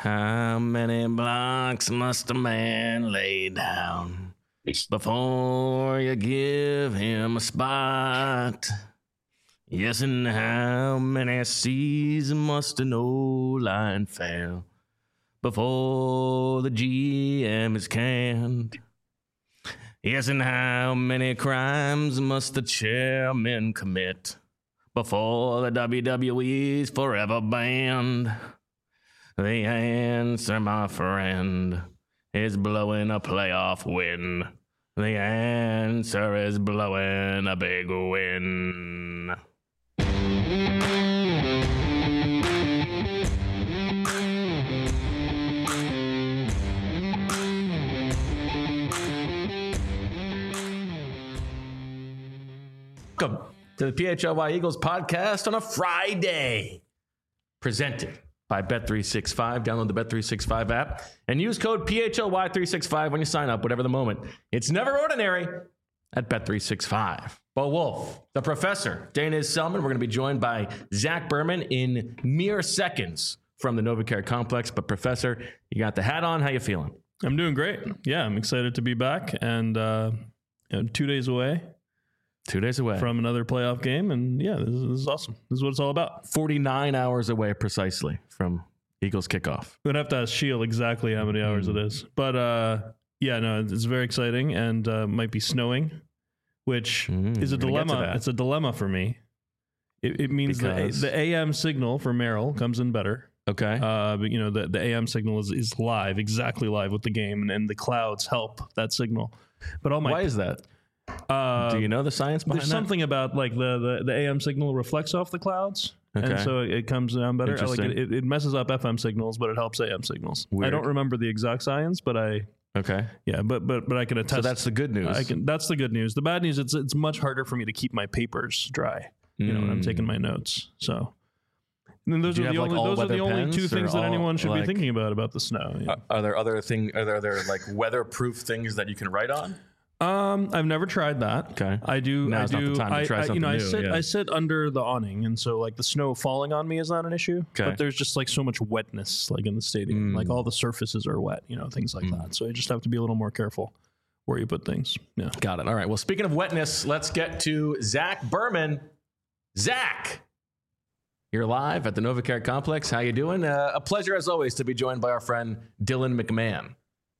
How many blocks must a man lay down before you give him a spot? Yes, and how many seas must an old line fail before the GM is canned? Yes, and how many crimes must the chairman commit before the WWE's forever banned? The answer, my friend, is blowing a playoff win. The answer is blowing a big win. Welcome to the PHLY Eagles podcast on a Friday. Presented by Bet365. Download the Bet365 app and use code PHLY365 when you sign up, whatever the moment. It's never ordinary at Bet365. Bo Wolf, the professor, Dana Selman. We're going to be joined by Zach Berman in mere seconds from the NovaCare complex. But Professor, you got the hat on. How you feeling? I'm doing great. Yeah, I'm excited to be back and 2 days away. 2 days away from another playoff game. And yeah, this is awesome. This is what it's all about. 49 hours away precisely from Eagles kickoff. We'd have to ask Shield exactly how many hours it is. But yeah, no, it's very exciting and might be snowing, which is a dilemma. It's a dilemma for me. It means the AM signal for Merrill comes in better. Okay. But you know, the AM signal is live, exactly live with the game, and the clouds help that signal. But why is that? Do you know the science behind that? There's something about like the AM signal reflects off the clouds, and so it comes down better. Like it messes up FM signals, but it helps AM signals. Weird. I don't remember the exact science, but I I can attest. So that's the good news. That's the good news. The bad news, it's much harder for me to keep my papers dry. You know, when I'm taking my notes. So. And those are the only two things that anyone should be thinking about the snow. Yeah. Are there other like weatherproof things that you can write on? I've never tried that. Okay. I do. Now's not the time to try something new. I sit under the awning, and so like the snow falling on me is not an issue. Okay. But there's just like so much wetness, like in the stadium, like all the surfaces are wet, you know, things like that. So you just have to be a little more careful where you put things. Yeah. Got it. All right. Well, speaking of wetness, let's get to Zach Berman. Zach, you're live at the NovaCare complex. How you doing? A pleasure as always to be joined by our friend Dylan McMahon.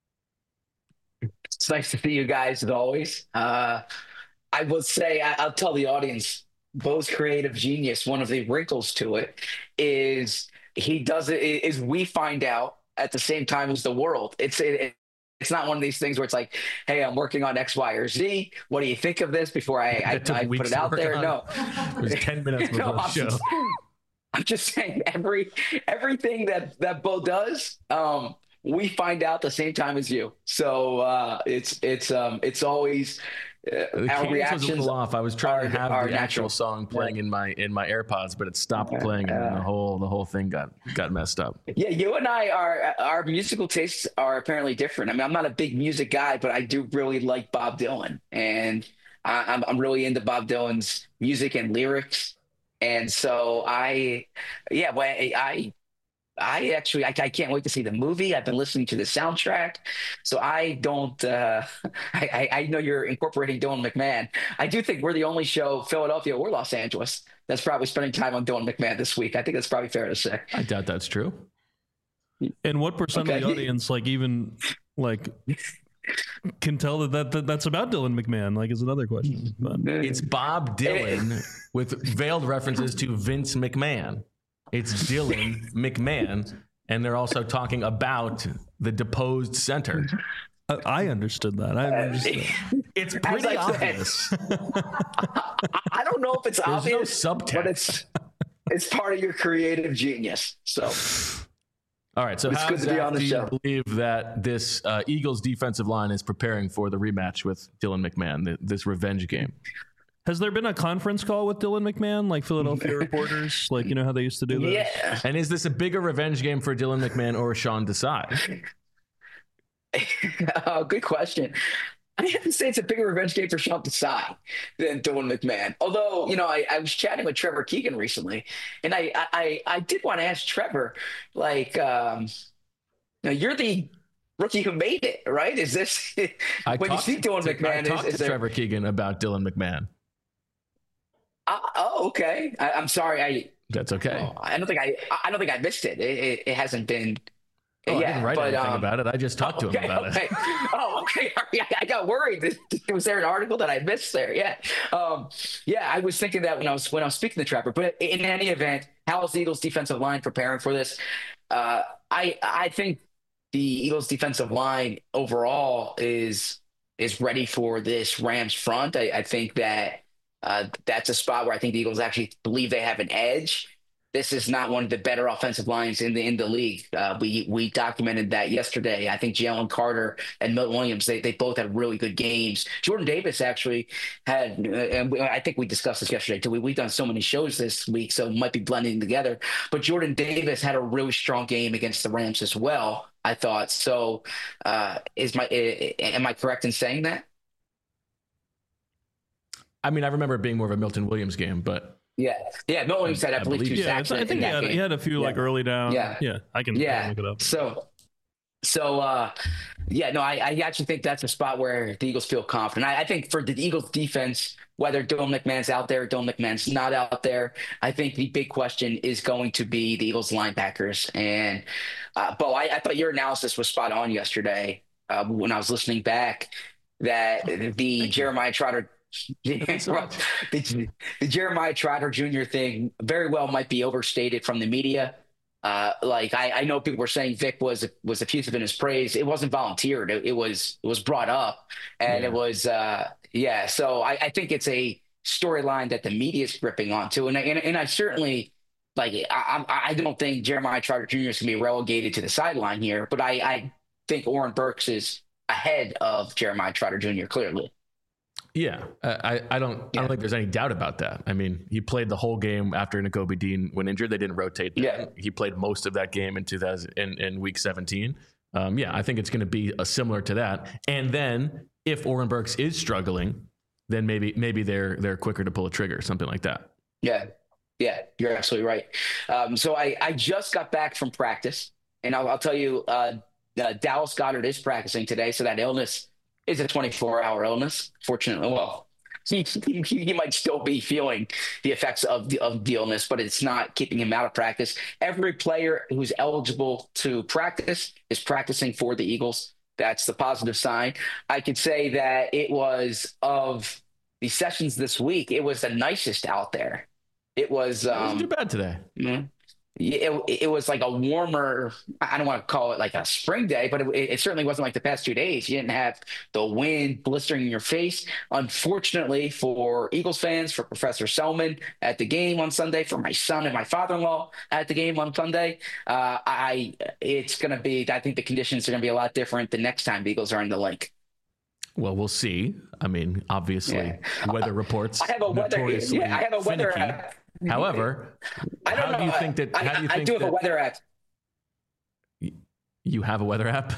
It's nice to see you guys as always. I will say, I'll tell the audience, Bo's creative genius, one of the wrinkles to it is we find out at the same time as the world. It's not one of these things where it's like, hey, I'm working on X, Y, or Z. What do you think of this before I put it out there? No. It was 10 minutes before the show. I'm just saying everything that Bo does, we find out the same time as you. So it's always our reactions was a little off. I was trying to have the actual song playing in my AirPods, but it stopped playing, and the whole thing got messed up. Yeah, you and I our musical tastes are apparently different. I mean, I'm not a big music guy, but I do really like Bob Dylan, and I'm really into Bob Dylan's music and lyrics. And so I can't wait to see the movie. I've been listening to the soundtrack. So I don't, I know you're incorporating Dylan McMahon. I do think we're the only show, Philadelphia or Los Angeles, that's probably spending time on Dylan McMahon this week. I think that's probably fair to say. I doubt that's true. And what percent of the audience, can tell that's about Dylan McMahon, is another question. But. It's Bob Dylan with veiled references to Vince McMahon. It's Dylan McMahon, and they're also talking about the deposed center. I understood that. It's pretty obvious. I don't know if it's obvious, no subtext. But it's part of your creative genius. So. All right, so it's good to be on the show. Do you believe that this Eagles defensive line is preparing for the rematch with Dylan McMahon, this revenge game? Has there been a conference call with Dylan McMahon, like Philadelphia reporters, you know how they used to do that? Yeah. And is this a bigger revenge game for Dylan McMahon or Sean Desai? Good question. I have to say it's a bigger revenge game for Sean Desai than Dylan McMahon. Although, I was chatting with Trevor Keegan recently, and I did want to ask Trevor, Now you're the rookie who made it, right? Is this when you see Dylan McMahon? I talked to Trevor Keegan about Dylan McMahon. Oh, okay. I'm sorry. That's okay. I don't think I missed it. It hasn't been. Oh, I didn't write anything about it. I just talked to him about it. Oh, okay. I got worried. Was there an article that I missed there? Yeah. Yeah, I was thinking that when I was speaking to Trevor. But in any event, how is the Eagles' defensive line preparing for this? I think the Eagles' defensive line overall is ready for this Rams front. I think that that's a spot where I think the Eagles actually believe they have an edge. This is not one of the better offensive lines in the league. We documented that yesterday. I think Jalen Carter and Milton Williams, they both had really good games. Jordan Davis actually had, and I think we discussed this yesterday too. We've done so many shows this week, so it might be blending together. But Jordan Davis had a really strong game against the Rams as well, I thought. So am I correct in saying that? I mean, I remember it being more of a Milton Williams game, but yeah. Milton Williams had, I believe, 2 sacks. I think he had a few like early down. Yeah, I can look it up. I actually think that's a spot where the Eagles feel confident. I think for the Eagles defense, whether Dylan McMahon's out there, Dylan McMahon's not out there, I think the big question is going to be the Eagles linebackers. And Bo, I thought your analysis was spot on yesterday when I was listening back, that the Jeremiah Trotter the Jeremiah Trotter Jr. thing very well might be overstated from the media. I know people were saying Vic was effusive in his praise. It wasn't volunteered. It was brought up, and it was So I think it's a storyline that the media is gripping onto, and I certainly I don't think Jeremiah Trotter Jr. is going to be relegated to the sideline here, but I think Oren Burks is ahead of Jeremiah Trotter Jr. clearly. Yeah, I don't think there's any doubt about that. I mean, he played the whole game after Nakobe Dean went injured. They didn't rotate. Yeah, he played most of that game in week 17. I think it's going to be similar to that. And then if Oren Burks is struggling, then maybe they're quicker to pull a trigger, something like that. Yeah, you're absolutely right. So I just got back from practice, and I'll tell you, Dallas Goedert is practicing today, so that illness is a 24-hour illness. Fortunately, well, he might still be feeling the effects of the illness, but it's not keeping him out of practice. Every player who's eligible to practice is practicing for the Eagles. That's the positive sign. I could say that it was, of the sessions this week, it was the nicest out there. It wasn't too bad today. Mm-hmm. It was like a warmer, I don't want to call it like a spring day, but it certainly wasn't like the past 2 days. You didn't have the wind blistering in your face. Unfortunately for Eagles fans, for Professor Selman at the game on Sunday, for my son and my father-in-law at the game on Sunday, it's going to be, I think the conditions are going to be a lot different the next time the Eagles are in the link. Well, we'll see. I mean, obviously, weather reports. I have a weather app. However, how do you think that? I do have a weather app. You have a weather app?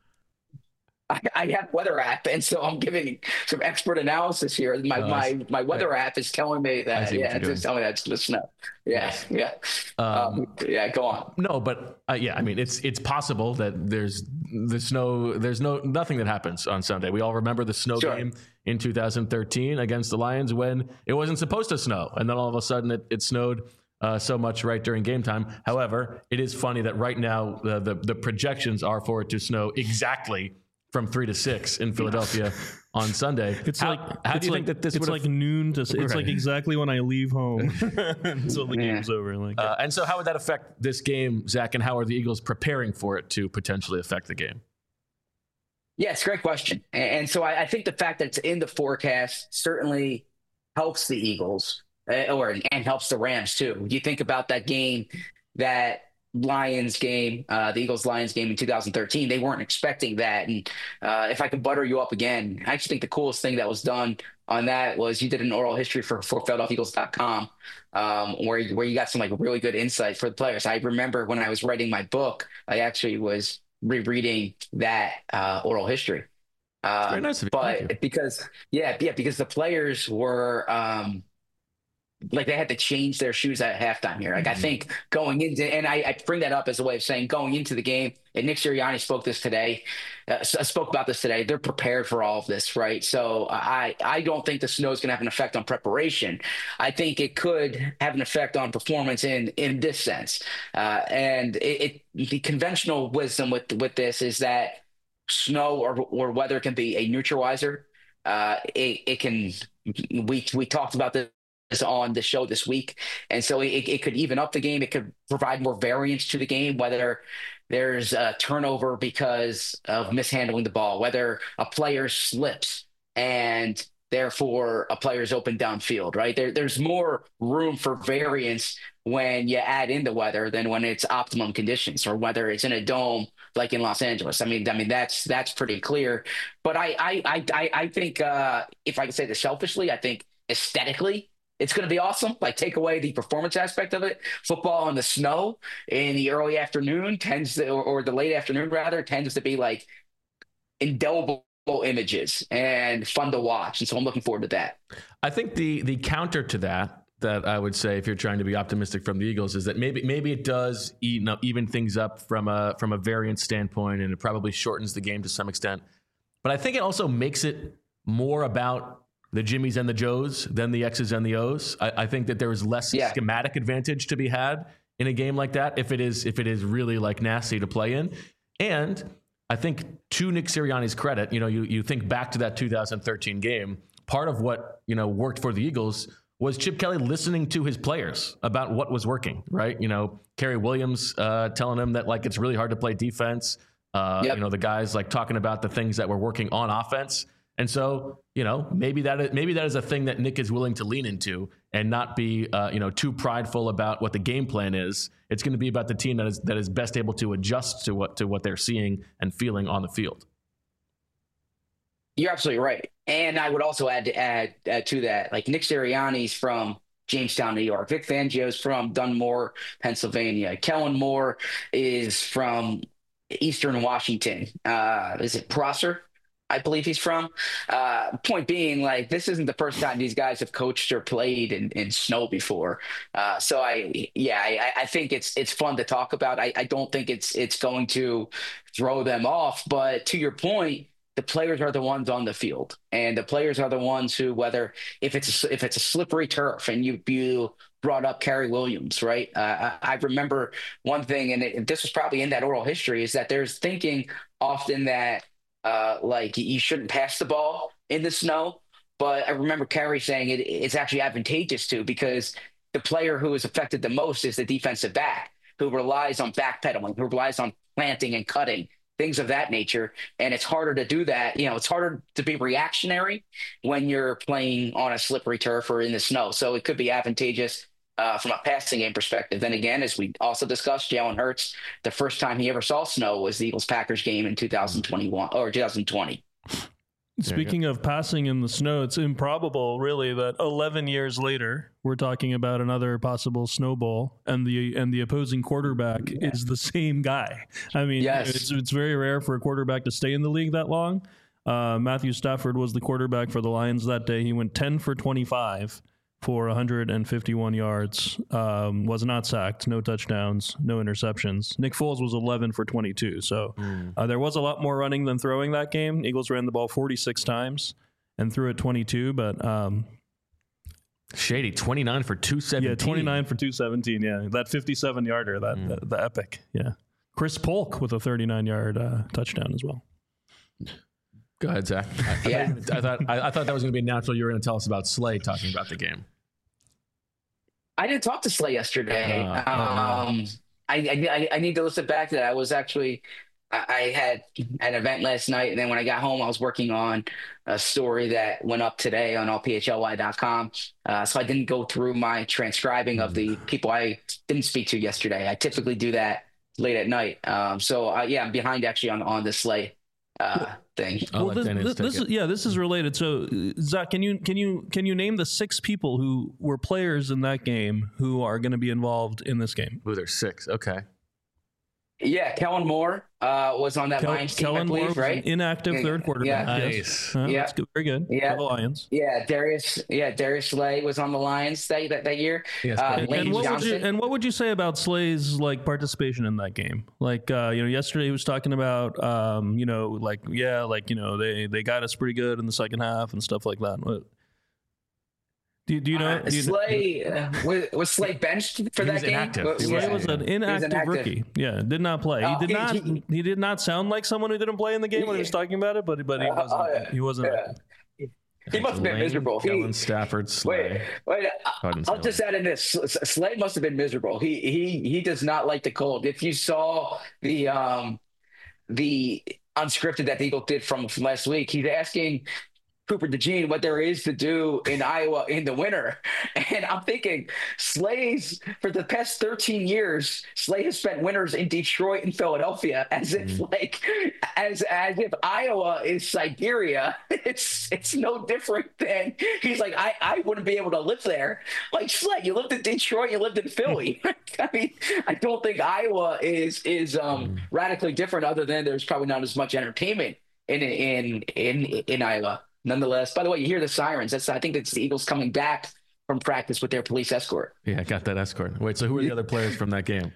I have a weather app, and so I'm giving some expert analysis here. My weather app is telling me that. It's telling me that's the snow. Yeah. Go on. No, but I mean, it's possible that there's nothing that happens on Sunday. We all remember the snow game in 2013 against the Lions when it wasn't supposed to snow, and then all of a sudden it snowed so much right during game time. However, it is funny that right now the projections are for it to snow exactly from 3 to 6 in Philadelphia on Sunday. It's how do you think that this? It's like noon to. It's like exactly when I leave home until the game's over. And so, how would that affect this game, Zach? And how are the Eagles preparing for it to potentially affect the game? Yeah, it's a great question. And so I think the fact that it's in the forecast certainly helps the Eagles, and helps the Rams too. You think about that game, that Lions game, the Eagles-Lions game in 2013, they weren't expecting that. And if I could butter you up again, I actually think the coolest thing that was done on that was you did an oral history for PhiladelphiaEagles.com, where you got some like really good insight for the players. I remember when I was writing my book, I actually was rereading that oral history. Very nice of you. But because the players were like they had to change their shoes at halftime here. Like I think going into, and I bring that up as a way of saying going into the game, and Nick Sirianni spoke about this today. They're prepared for all of this, right? So I don't think the snow is going to have an effect on preparation. I think it could have an effect on performance in this sense. And the conventional wisdom with this is that snow or weather can be a neutralizer. We talked about this on the show this week, and so it could even up the game. It could provide more variance to the game, whether there's a turnover because of mishandling the ball, whether a player slips and therefore a player's open downfield, right? There's more room for variance when you add in the weather than when it's optimum conditions, or whether it's in a dome like in Los Angeles. I mean that's pretty clear. But I think if I could say this selfishly, I think aesthetically it's going to be awesome. Like, take away the performance aspect of it. Football in the snow in the early afternoon or the late afternoon rather, tends to be like indelible images and fun to watch. And so I'm looking forward to that. I think the counter to that I would say, if you're trying to be optimistic from the Eagles, is that maybe it does even things up from a variance standpoint, and it probably shortens the game to some extent. But I think it also makes it more about the Jimmies and the Joes than the X's and the O's. I think that there is less schematic advantage to be had in a game like that if it is really like nasty to play in. And I think, to Nick Sirianni's credit, you think back to that 2013 game. Part of what worked for the Eagles was Chip Kelly listening to his players about what was working. Right? Kerry Williams telling him that like it's really hard to play defense. The guys like talking about the things that were working on offense. And so, maybe that is a thing that Nick is willing to lean into and not be, too prideful about what the game plan is. It's going to be about the team that is best able to adjust to what they're seeing and feeling on the field. You're absolutely right. And I would also add to that, like, Nick Sirianni's from Jamestown, New York. Vic Fangio's from Dunmore, Pennsylvania. Kellen Moore is from Eastern Washington. Is it Prosser? I believe he's from. Point being, like, this isn't the first time these guys have coached or played in snow before. So I think it's fun to talk about. I don't think it's going to throw them off. But to your point, the players are the ones on the field, and the players are the ones who, whether if it's a slippery turf, and you brought up Kerry Williams, right? I remember one thing, and this was probably in that oral history, is that there's thinking often that like you shouldn't pass the ball in the snow. But I remember Kerry saying it's actually advantageous to, because the player who is affected the most is the defensive back, who relies on backpedaling, who relies on planting and cutting, things of that nature. And it's harder to do that. It's harder to be reactionary when you're playing on a slippery turf or in the snow. So it could be advantageous from a passing game perspective. Then again, as we also discussed, Jalen Hurts, the first time he ever saw snow was the Eagles-Packers game in 2021 or 2020. Speaking of passing in the snow, it's improbable, really, that 11 years later, we're talking about another possible Snow Bowl, and the opposing quarterback is the same guy. I mean, it's very rare for a quarterback to stay in the league that long. Matthew Stafford was the quarterback for the Lions that day. He went 10 for 25 for 151 yards, was not sacked, no touchdowns, no interceptions. Nick Foles was 11 for 22. So there was a lot more running than throwing that game. Eagles ran the ball 46 times and threw it 22, but Shady, 29 for 217. Yeah, 29 for 217, yeah. That 57-yarder, the epic, yeah. Chris Polk with a 39-yard touchdown as well. Go ahead, Zach. I thought that was going to be natural. You were going to tell us about Slay talking about the game. I didn't talk to Slay yesterday. I need to listen back to that. I had an event last night, and then when I got home, I was working on a story that went up today on allphly.com. So I didn't go through my transcribing of the people I didn't speak to yesterday. I typically do that late at night. I'm behind actually on the Slay thing. Well, this is related. So, Zach, can you name the 6 people who were players in that game who are going to be involved in this game? Ooh, there's 6. Okay. Yeah, Kellen Moore was on that Lions team, Kellen I believe, Moore was right? an inactive third quarterback. Yeah. Nice. That's good. Very good. Yeah. The Lions. Yeah, Darius Slay was on the Lions that year. Yes, and what would you say about Slay's like participation in that game? Like yesterday he was talking about they got us pretty good in the second half and stuff like that. What, do you know? Slay was Slay benched for that game? Slay was an inactive rookie. Yeah, did not play. He did not sound like someone who didn't play in the game when he was talking about it, but he wasn't. He wasn't. Yeah. He must have been miserable. Kellen Stafford, Slay. Wait. I'll just add in this. Slay must have been miserable. He does not like the cold. If you saw the unscripted that the Eagles did from last week, he's asking Cooper DeJean what there is to do in Iowa in the winter. And I'm thinking Slay's for the past 13 years, Slay has spent winters in Detroit and Philadelphia as if if Iowa is Siberia. It's no different than he's like, I wouldn't be able to live there. Like Slay, you lived in Detroit, you lived in Philly. I mean, I don't think Iowa is radically different other than there's probably not as much entertainment in Iowa. Nonetheless, by the way, you hear the sirens. I think it's the Eagles coming back from practice with their police escort. Yeah, I got that escort. Wait, so who are the other players from that game?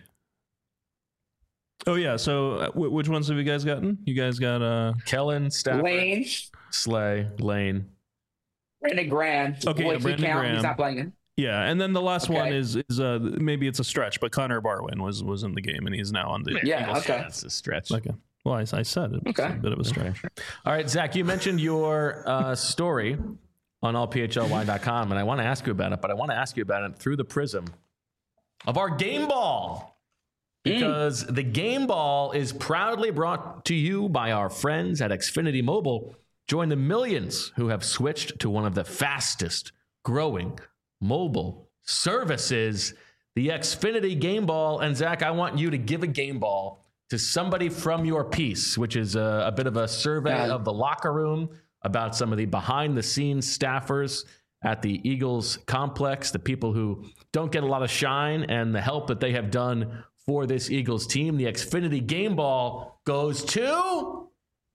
Oh, yeah. So which ones have you guys gotten? You guys got Kellen, Stafford, Lane, Slay, Lane. Brandon Graham. Okay, Brandon Graham. He's not playing. Yeah, and then the last one is maybe it's a stretch, but Connor Barwin was in the game, and he's now on the Eagles. Okay. That's a stretch. Okay. Well, I said it. Okay. A bit of a stretch. All right, Zach, you mentioned your story on allphly.com, and I want to ask you about it, but I want to ask you about it through the prism of our game ball. Because the game ball is proudly brought to you by our friends at Xfinity Mobile. Join the millions who have switched to one of the fastest growing mobile services, the Xfinity Game Ball. And Zach, I want you to give a game ball to somebody from your piece, which is a bit of a survey of the locker room about some of the behind-the-scenes staffers at the Eagles complex, the people who don't get a lot of shine, and the help that they have done for this Eagles team. The Xfinity Game Ball goes to...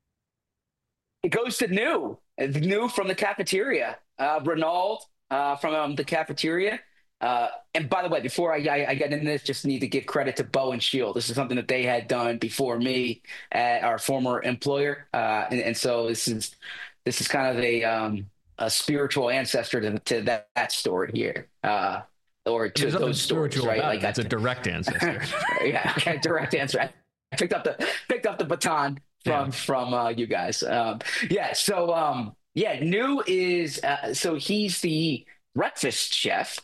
It goes to New from the cafeteria. Renaud from the cafeteria. And by the way, before I get into this, just need to give credit to Bow and Shield. This is something that they had done before me at our former employer, and so this is kind of a spiritual ancestor to that story here, or to those stories, right? Like that's a direct ancestor. Yeah, okay, direct answer. I picked up the baton from you guys. So New is so he's the breakfast chef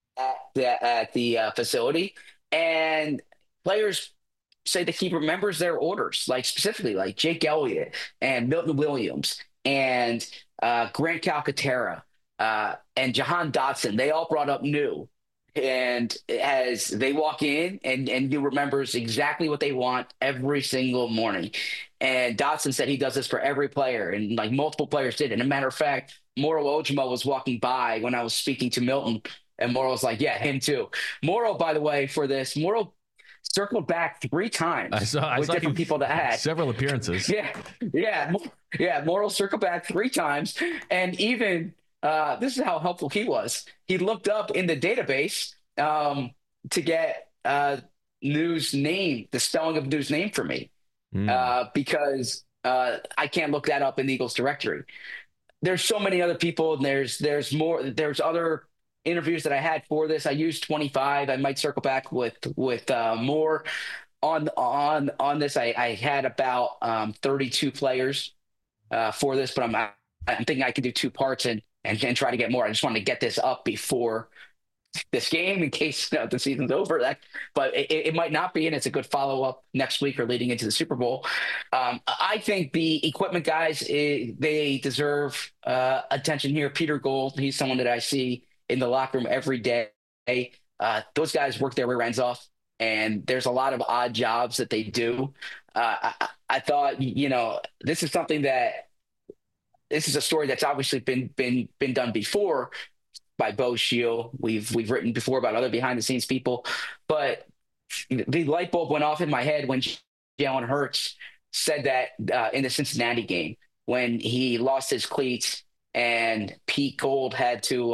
at the facility, and players say that he remembers their orders, like specifically like Jake Elliott and Milton Williams and Grant Calcaterra and Jahan Dotson. They all brought up New, and as they walk in, and New remembers exactly what they want every single morning. And Dotson said he does this for every player, and like multiple players did. And a matter of fact, Moro Ojimo was walking by when I was speaking to Milton, and Moro was like, yeah, him too. Moro, by the way, for this, Moro circled back 3 times I saw different people to add. Several appearances. Yeah. Moro circled back 3 times. And even this is how helpful he was. He looked up in the database to get New's name, the spelling of New's name for me, because I can't look that up in the Eagles directory. There's so many other people, and there's more. There's other interviews that I had for this. I used 25. I might circle back with more on this. I had about 32 players for this, but I'm thinking I could do 2 parts and try to get more. I just wanted to get this up before this game in case the season's over. But it might not be, and it's a good follow-up next week or leading into the Super Bowl. I think the equipment guys, they deserve attention here. Peter Gold, he's someone that I see in the locker room every day. Those guys work their rear ends off, and there's a lot of odd jobs that they do. I thought, this is something that this is a story that's obviously been done before by Bo Shield. We've written before about other behind the scenes people, but the light bulb went off in my head when Jalen Hurts said that in the Cincinnati game when he lost his cleats and Pete Gold had to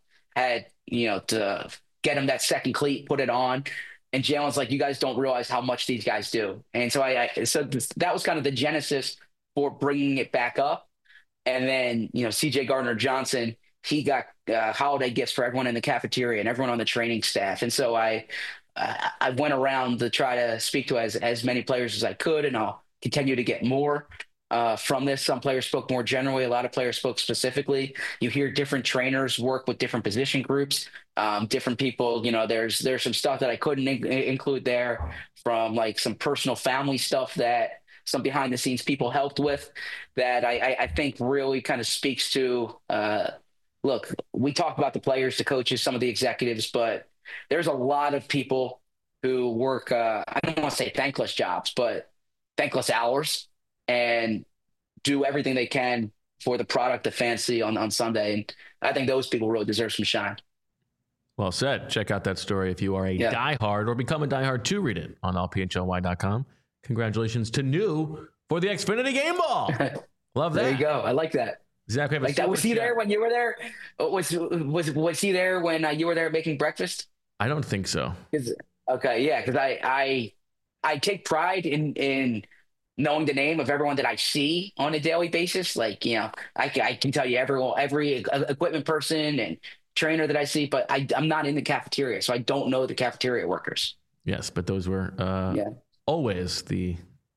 to get him that second cleat, put it on. And Jalen's like, you guys don't realize how much these guys do. And so so that was kind of the genesis for bringing it back up. And then, CJ Gardner-Johnson, he got holiday gifts for everyone in the cafeteria and everyone on the training staff. And so I went around to try to speak to as many players as I could, and I'll continue to get more from this. Some players spoke more generally. A lot of players spoke specifically. You hear different trainers work with different position groups, different people. There's some stuff that I couldn't include there from like some personal family stuff that some behind the scenes people helped with that I think really kind of speaks to, look, we talk about the players, the coaches, some of the executives, but there's a lot of people who work, I don't want to say thankless jobs, but thankless hours and do everything they can for the product the fans see on Sunday. And I think those people really deserve some shine. Well said. Check out that story if you are a diehard or become a diehard to read it on allphly.com. Congratulations to New for the Xfinity game ball. Love that. There you go. I like that. Exactly. Like that. Was he there when you were there? Was he there when you were there making breakfast? I don't think so. Okay, yeah, because I take pride in knowing the name of everyone that I see on a daily basis. Like, I can tell you every equipment person and trainer that I see, but I'm not in the cafeteria, so I don't know the cafeteria workers. Yes, but those were always the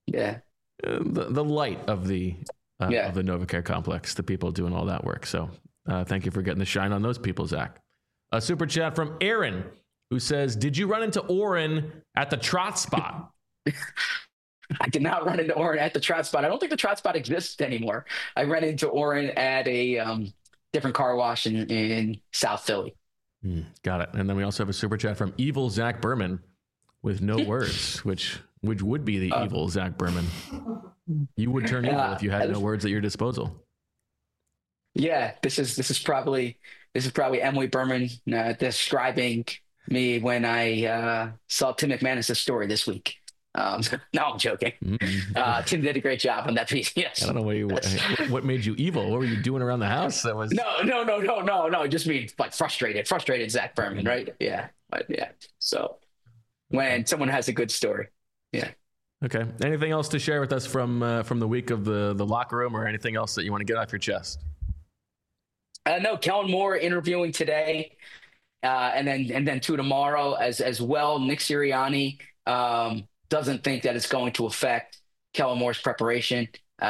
light of the NovaCare complex, the people doing all that work. So thank you for getting the shine on those people, Zach. A super chat from Aaron, who says, did you run into Oren at the Trot Spot? I did not run into Oren at the Trot Spot. I don't think the Trot Spot exists anymore. I ran into Oren at a different car wash in South Philly. Got it. And then we also have a super chat from Evil Zach Berman with no words, which would be the evil Zach Berman. You would turn evil if you had no words at your disposal. Yeah, this is probably Emily Berman describing me when I saw Tim McManus' story this week. No, I'm joking. Tim did a great job on that piece. Yes. I don't know what made you evil. What were you doing around the house? That was no. Just mean like frustrated Zach Berman, right? Yeah, but yeah. So when someone has a good story, yeah. Okay. Anything else to share with us from the week of the locker room, or anything else that you want to get off your chest? No, Kellen Moore interviewing today, and then two tomorrow as well. Nick Sirianni doesn't think that it's going to affect Kellen Moore's preparation.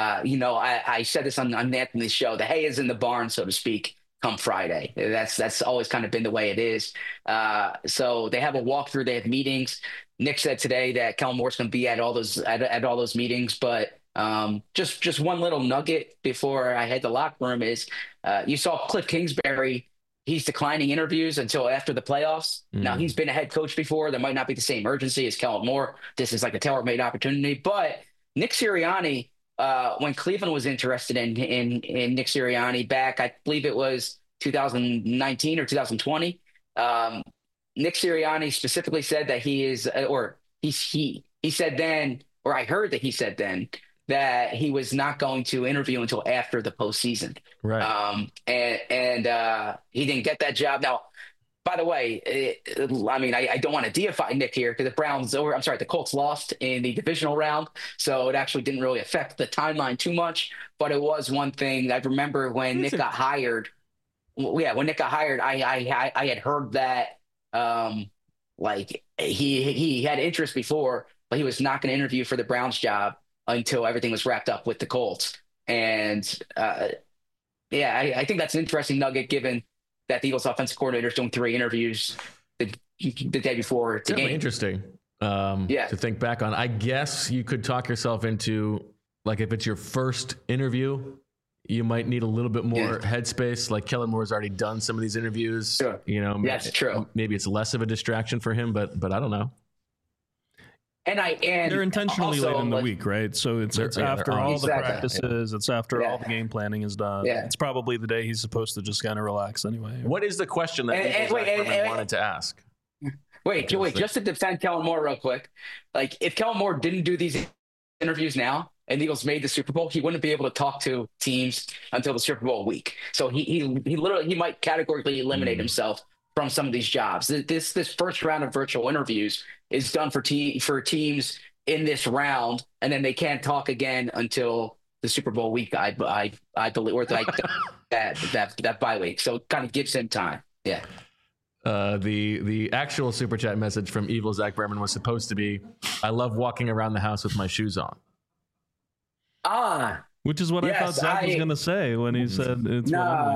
I said this on Anthony's show. The hay is in the barn, so to speak, come Friday. That's always kind of been the way it is. So they have a walkthrough. They have meetings. Nick said today that Kellen Moore's going to be at all those meetings, but just one little nugget before I head to the locker room is you saw Cliff Kingsbury. He's declining interviews until after the playoffs. Now, he's been a head coach before. There might not be the same urgency as Kellen Moore. This is like a tailor-made opportunity. But Nick Sirianni, when Cleveland was interested in Nick Sirianni back, I believe it was 2019 or 2020, Nick Sirianni specifically said that he said then, or I heard that he said then, that he was not going to interview until after the postseason. Right. And he didn't get that job. Now, by the way, I don't want to deify Nick here because the Colts lost in the divisional round. So it actually didn't really affect the timeline too much, but it was one thing. I remember when Nick got hired. When Nick got hired, I had heard that, he had interest before, but he was not going to interview for the Browns job until everything was wrapped up with the Colts. And I think that's an interesting nugget given that the Eagles offensive coordinator is doing 3 interviews the day before the game. Interesting to think back on. I guess you could talk yourself into, like, if it's your first interview, you might need a little bit more headspace. Like Kellen Moore's already done some of these interviews. Sure. That's true. Maybe it's less of a distraction for him, but I don't know. And they're intentionally late in the week, right? So it's after all the practices. It's after all the game planning is done. Yeah. It's probably the day he's supposed to just kind of relax anyway. What is the question that Berman wanted to ask? Wait, just to defend Kellen Moore real quick. Like, if Kellen Moore didn't do these interviews now and the Eagles made the Super Bowl, he wouldn't be able to talk to teams until the Super Bowl week. So he literally might categorically eliminate himself from some of these jobs. This first round of virtual interviews is done for teams in this round, and then they can't talk again until the Super Bowl week. I believe, or like that bye week. So it kind of gives him time. Yeah. The actual super chat message from Evil Zach Berman was supposed to be, "I love walking around the house with my shoes on." Which is what I thought Zach was going to say when he said it's.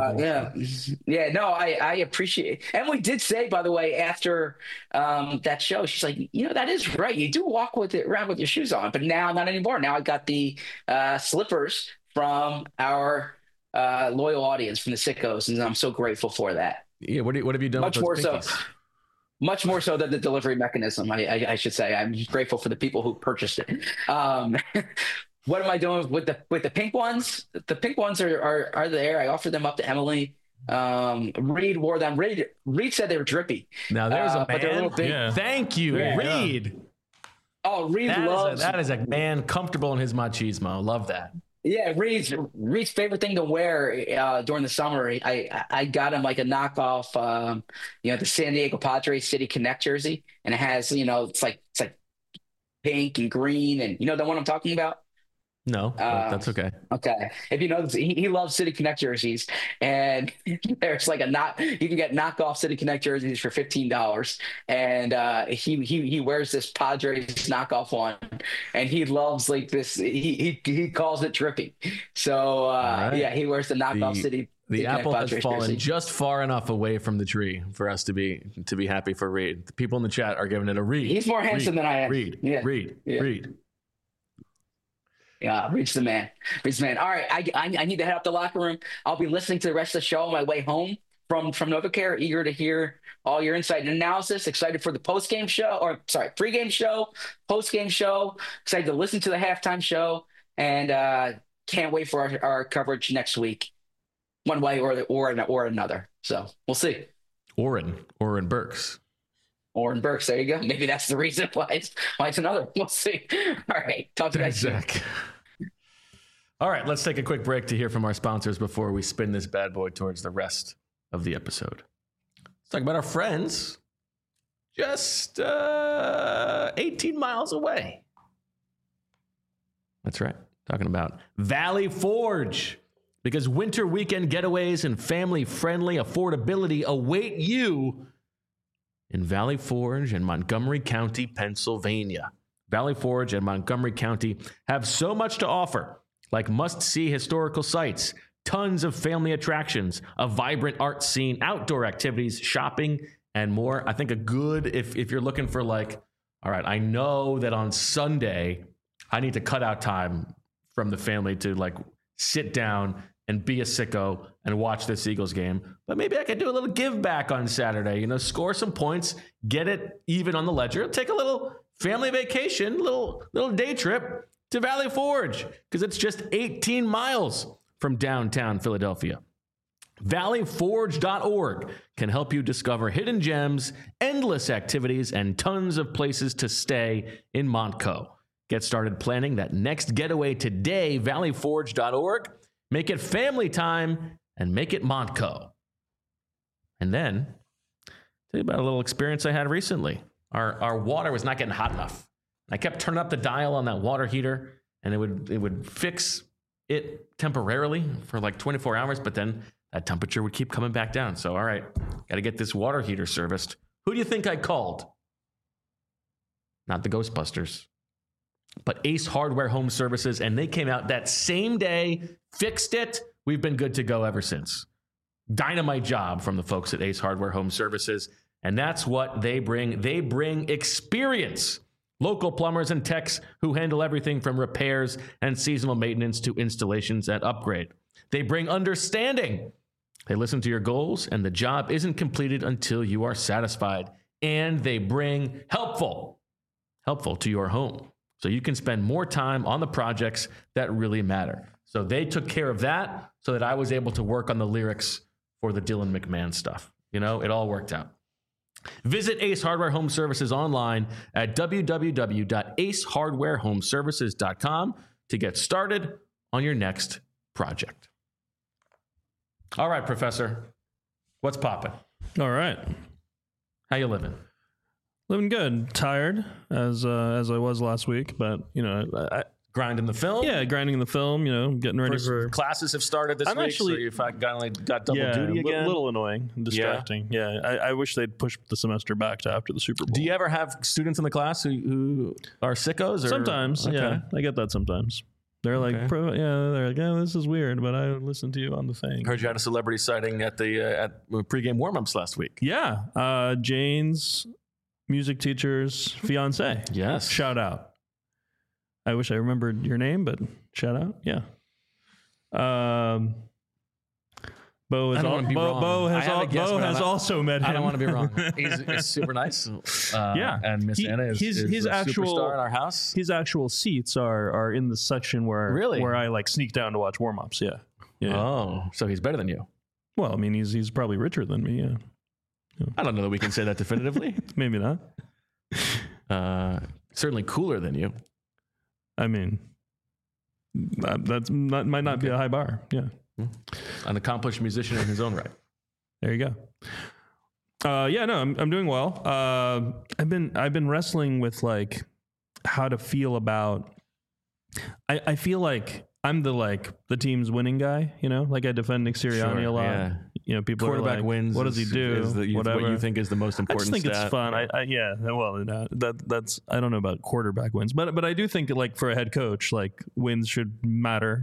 I appreciate it. And we did say, by the way, after that show, she's like, that is right. You do walk around with your shoes on, but now not anymore. Now I got the slippers from our loyal audience, from the Sickos, and I'm so grateful for that. Yeah, what have you done? Much more so than the delivery mechanism. I should say. I'm grateful for the people who purchased it. What am I doing with the pink ones? The pink ones are there. I offered them up to Emily. Reed wore them. Reed said they were drippy. Now there's a man. But they're a little big. Yeah. Thank you, Reed. Yeah. Oh, Reed loves that is a man comfortable in his machismo. Love that. Yeah, Reed's favorite thing to wear during the summer. I got him like a knockoff, the San Diego Padres City Connect jersey, and it has it's like pink and green, and the one I'm talking about. No, that's okay. Okay. If you know, he loves City Connect jerseys, and there's like you can get knockoff City Connect jerseys for $15, and he wears this Padres knockoff one, and he loves like this. He calls it drippy. So right. He wears the knockoff City. The apple has fallen jersey. Just far enough away from the tree for us to be happy for Reed. The people in the chat are giving it a Reed. He's more handsome than I am. Reed. Yeah, Reed's the man. All right, I need to head up the locker room. I'll be listening to the rest of the show on my way home from NovaCare. Eager to hear all your insight and analysis. Excited for the pregame show, postgame show. Excited to listen to the halftime show, and can't wait for our coverage next week, one way or another. So we'll see. Oren Burks. Oren Burks, there you go. Maybe that's the reason why it's another. We'll see. All right, talk to you guys soon. All right, let's take a quick break to hear from our sponsors before we spin this bad boy towards the rest of the episode. Let's talk about our friends just 18 miles away. That's right, talking about Valley Forge. Because winter weekend getaways and family-friendly affordability await you in Valley Forge and Montgomery County, Pennsylvania. Valley Forge and Montgomery County have so much to offer, like must-see historical sites, tons of family attractions, a vibrant art scene, outdoor activities, shopping, and more. I think if you're looking for all right, I know that on Sunday, I need to cut out time from the family to sit down and be a sicko and watch this Eagles game. But maybe I could do a little give back on Saturday, score some points, get it even on the ledger, take a little family vacation, little day trip to Valley Forge, because it's just 18 miles from downtown Philadelphia. ValleyForge.org can help you discover hidden gems, endless activities, and tons of places to stay in Montco. Get started planning that next getaway today, ValleyForge.org. Make it family time and make it Montco. And then, tell you about a little experience I had recently. Our water was not getting hot enough. I kept turning up the dial on that water heater, and it would fix it temporarily for 24 hours, but then that temperature would keep coming back down. So, all right, got to get this water heater serviced. Who do you think I called? Not the Ghostbusters, but Ace Hardware Home Services, and they came out that same day, fixed it. We've been good to go ever since. Dynamite job from the folks at Ace Hardware Home Services, and that's what they bring. They bring experience. Local plumbers and techs who handle everything from repairs and seasonal maintenance to installations and upgrade. They bring understanding. They listen to your goals, and the job isn't completed until you are satisfied. And they bring helpful to your home, so you can spend more time on the projects that really matter. So they took care of that so that I was able to work on the lyrics for the Dylan McMahon stuff. It all worked out. Visit Ace Hardware Home Services online at www.acehardwarehomeservices.com to get started on your next project. All right, Professor, what's popping? All right. How you living? Living good. Tired as I was last week, but grinding the film. Yeah, grinding the film. Getting ready for classes have started this week. So you've got double duty again. A little annoying, distracting. Yeah, I wish they'd push the semester back to after the Super Bowl. Do you ever have students in the class who are sickos? Or? Sometimes, yeah, I get that sometimes. They're like, oh, this is weird, but I listened to you on the thing. Heard you had a celebrity sighting at the at pregame warm-ups last week. Yeah, Jane's music teacher's fiance. Yes, shout out. I wish I remembered your name, but shout out, yeah. Bo has also met him. I don't want to be wrong. He's super nice. And Miss Anna is a superstar in our house. His actual seats are in the section where I like sneak down to watch warm-ups. Yeah. Oh, so he's better than you. Well, I mean, he's probably richer than me. Yeah. I don't know that we can say that definitively. Maybe not. Certainly cooler than you. I mean, might not be a high bar. Yeah. An accomplished musician in his own right. There you go. I'm doing well. I've been wrestling with like how to feel about. I feel like I'm the team's winning guy. Like I defend Nick Sirianni a lot. Yeah. People quarterback are like, wins. What does he do? Whatever. What you think is the most important. I just think stat. It's fun. That's I don't know about quarterback wins, but I do think that like for a head coach, like wins should matter.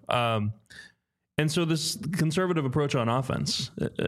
And so this conservative approach on offense,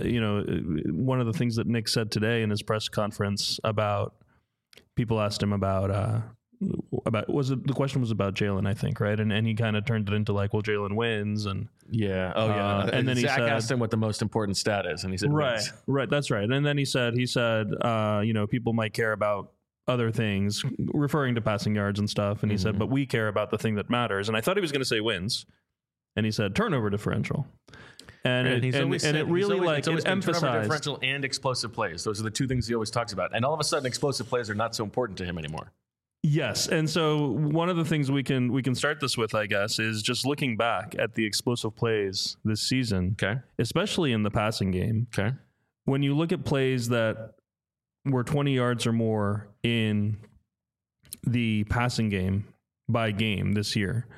one of the things that Nick said today in his press conference about people asked him about the question was about Jalen, I think, right? And he kind of turned it into like, well, Jalen wins and and then Zach asked him what the most important stat is, and he said wins. Right, that's right. And then he said people might care about other things, referring to passing yards and stuff, and he said, but we care about the thing that matters. And I thought he was going to say wins. And he said turnover differential, and it emphasized turnover differential and explosive plays. Those are the two things he always talks about. And all of a sudden, explosive plays are not so important to him anymore. Yes, and so one of the things we can start this with, I guess, is just looking back at the explosive plays this season, especially in the passing game. Okay, when you look at plays that were 20 yards or more in the passing game by game this year.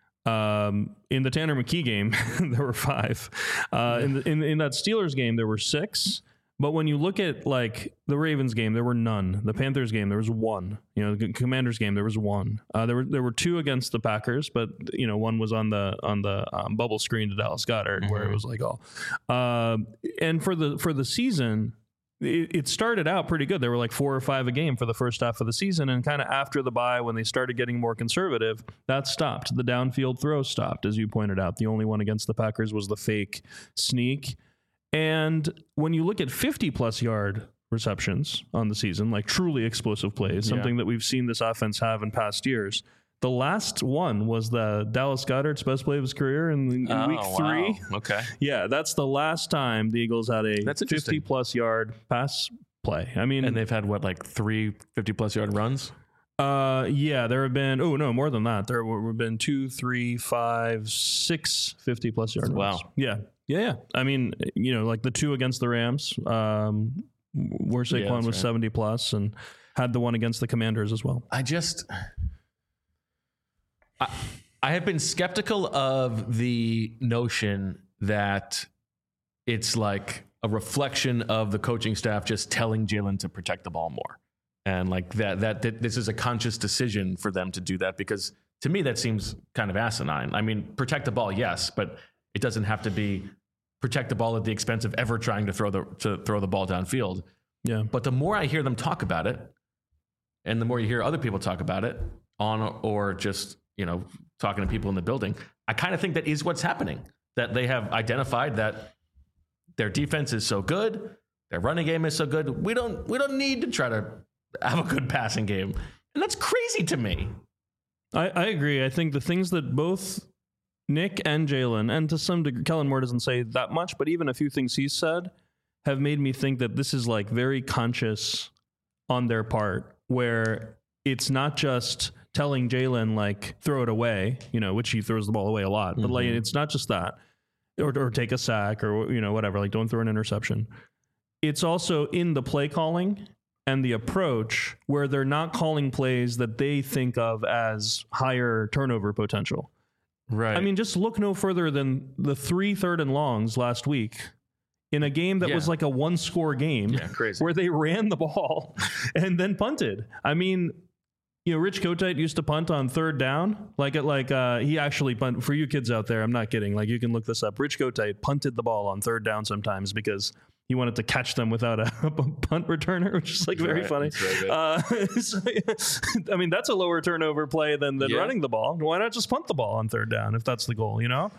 In the Tanner McKee game, there were 5. In that Steelers game, there were 6. But when you look at like the Ravens game, there were none. The Panthers game, there was 1. The Commanders game, there was 1. There were 2 against the Packers, but one was on the bubble screen to Dallas Goedert, where it was like and for the season. It started out pretty good. There were like 4 or 5 a game for the first half of the season. And kind of after the bye, when they started getting more conservative, that stopped. The downfield throw stopped, as you pointed out. The only one against the Packers was the fake sneak. And when you look at 50-plus yard receptions on the season, like truly explosive plays, something that we've seen this offense have in past years, the last one was the Dallas Goedert's best play of his career in week 3. Wow. Okay. Yeah, that's the last time the Eagles had a 50-plus yard pass play. I mean, and they've had like 3 50-plus yard runs? There have been, more than that. There have been 2, 3, 5, 6 50-plus yard runs. Wow. Yeah. I mean, like the 2 against the Rams, where Saquon was 70-plus and had the one against the Commanders as well. I have been skeptical of the notion that it's like a reflection of the coaching staff just telling Jalen to protect the ball more. And like that this is a conscious decision for them to do that, because to me that seems kind of asinine. I mean, protect the ball, yes, but it doesn't have to be protect the ball at the expense of ever trying to throw the ball downfield. Yeah. But the more I hear them talk about it, and the more you hear other people talk about it or just talking to people in the building, I kind of think that is what's happening, that they have identified that their defense is so good, their running game is so good. We don't need to try to have a good passing game. And that's crazy to me. I agree. I think the things that both Nick and Jalen, and to some degree, Kellen Moore doesn't say that much, but even a few things he said have made me think that this is like very conscious on their part, where it's not just telling Jalen like throw it away, which he throws the ball away a lot, but like it's not just that, or take a sack or whatever, like don't throw an interception. It's also in the play calling and the approach where they're not calling plays that they think of as higher turnover potential. Right. I mean, just look no further than the 3 3rd and longs last week in a game that was like a 1-score game where they ran the ball and then punted. I mean, Rich Kotite used to punt on 3rd down. He actually punted. For you kids out there, I'm not kidding. Like, you can look this up. Rich Kotite punted the ball on 3rd down sometimes because he wanted to catch them without a punt returner, which is like very funny. I mean, that's a lower turnover play than running the ball. Why not just punt the ball on 3rd down if that's the goal?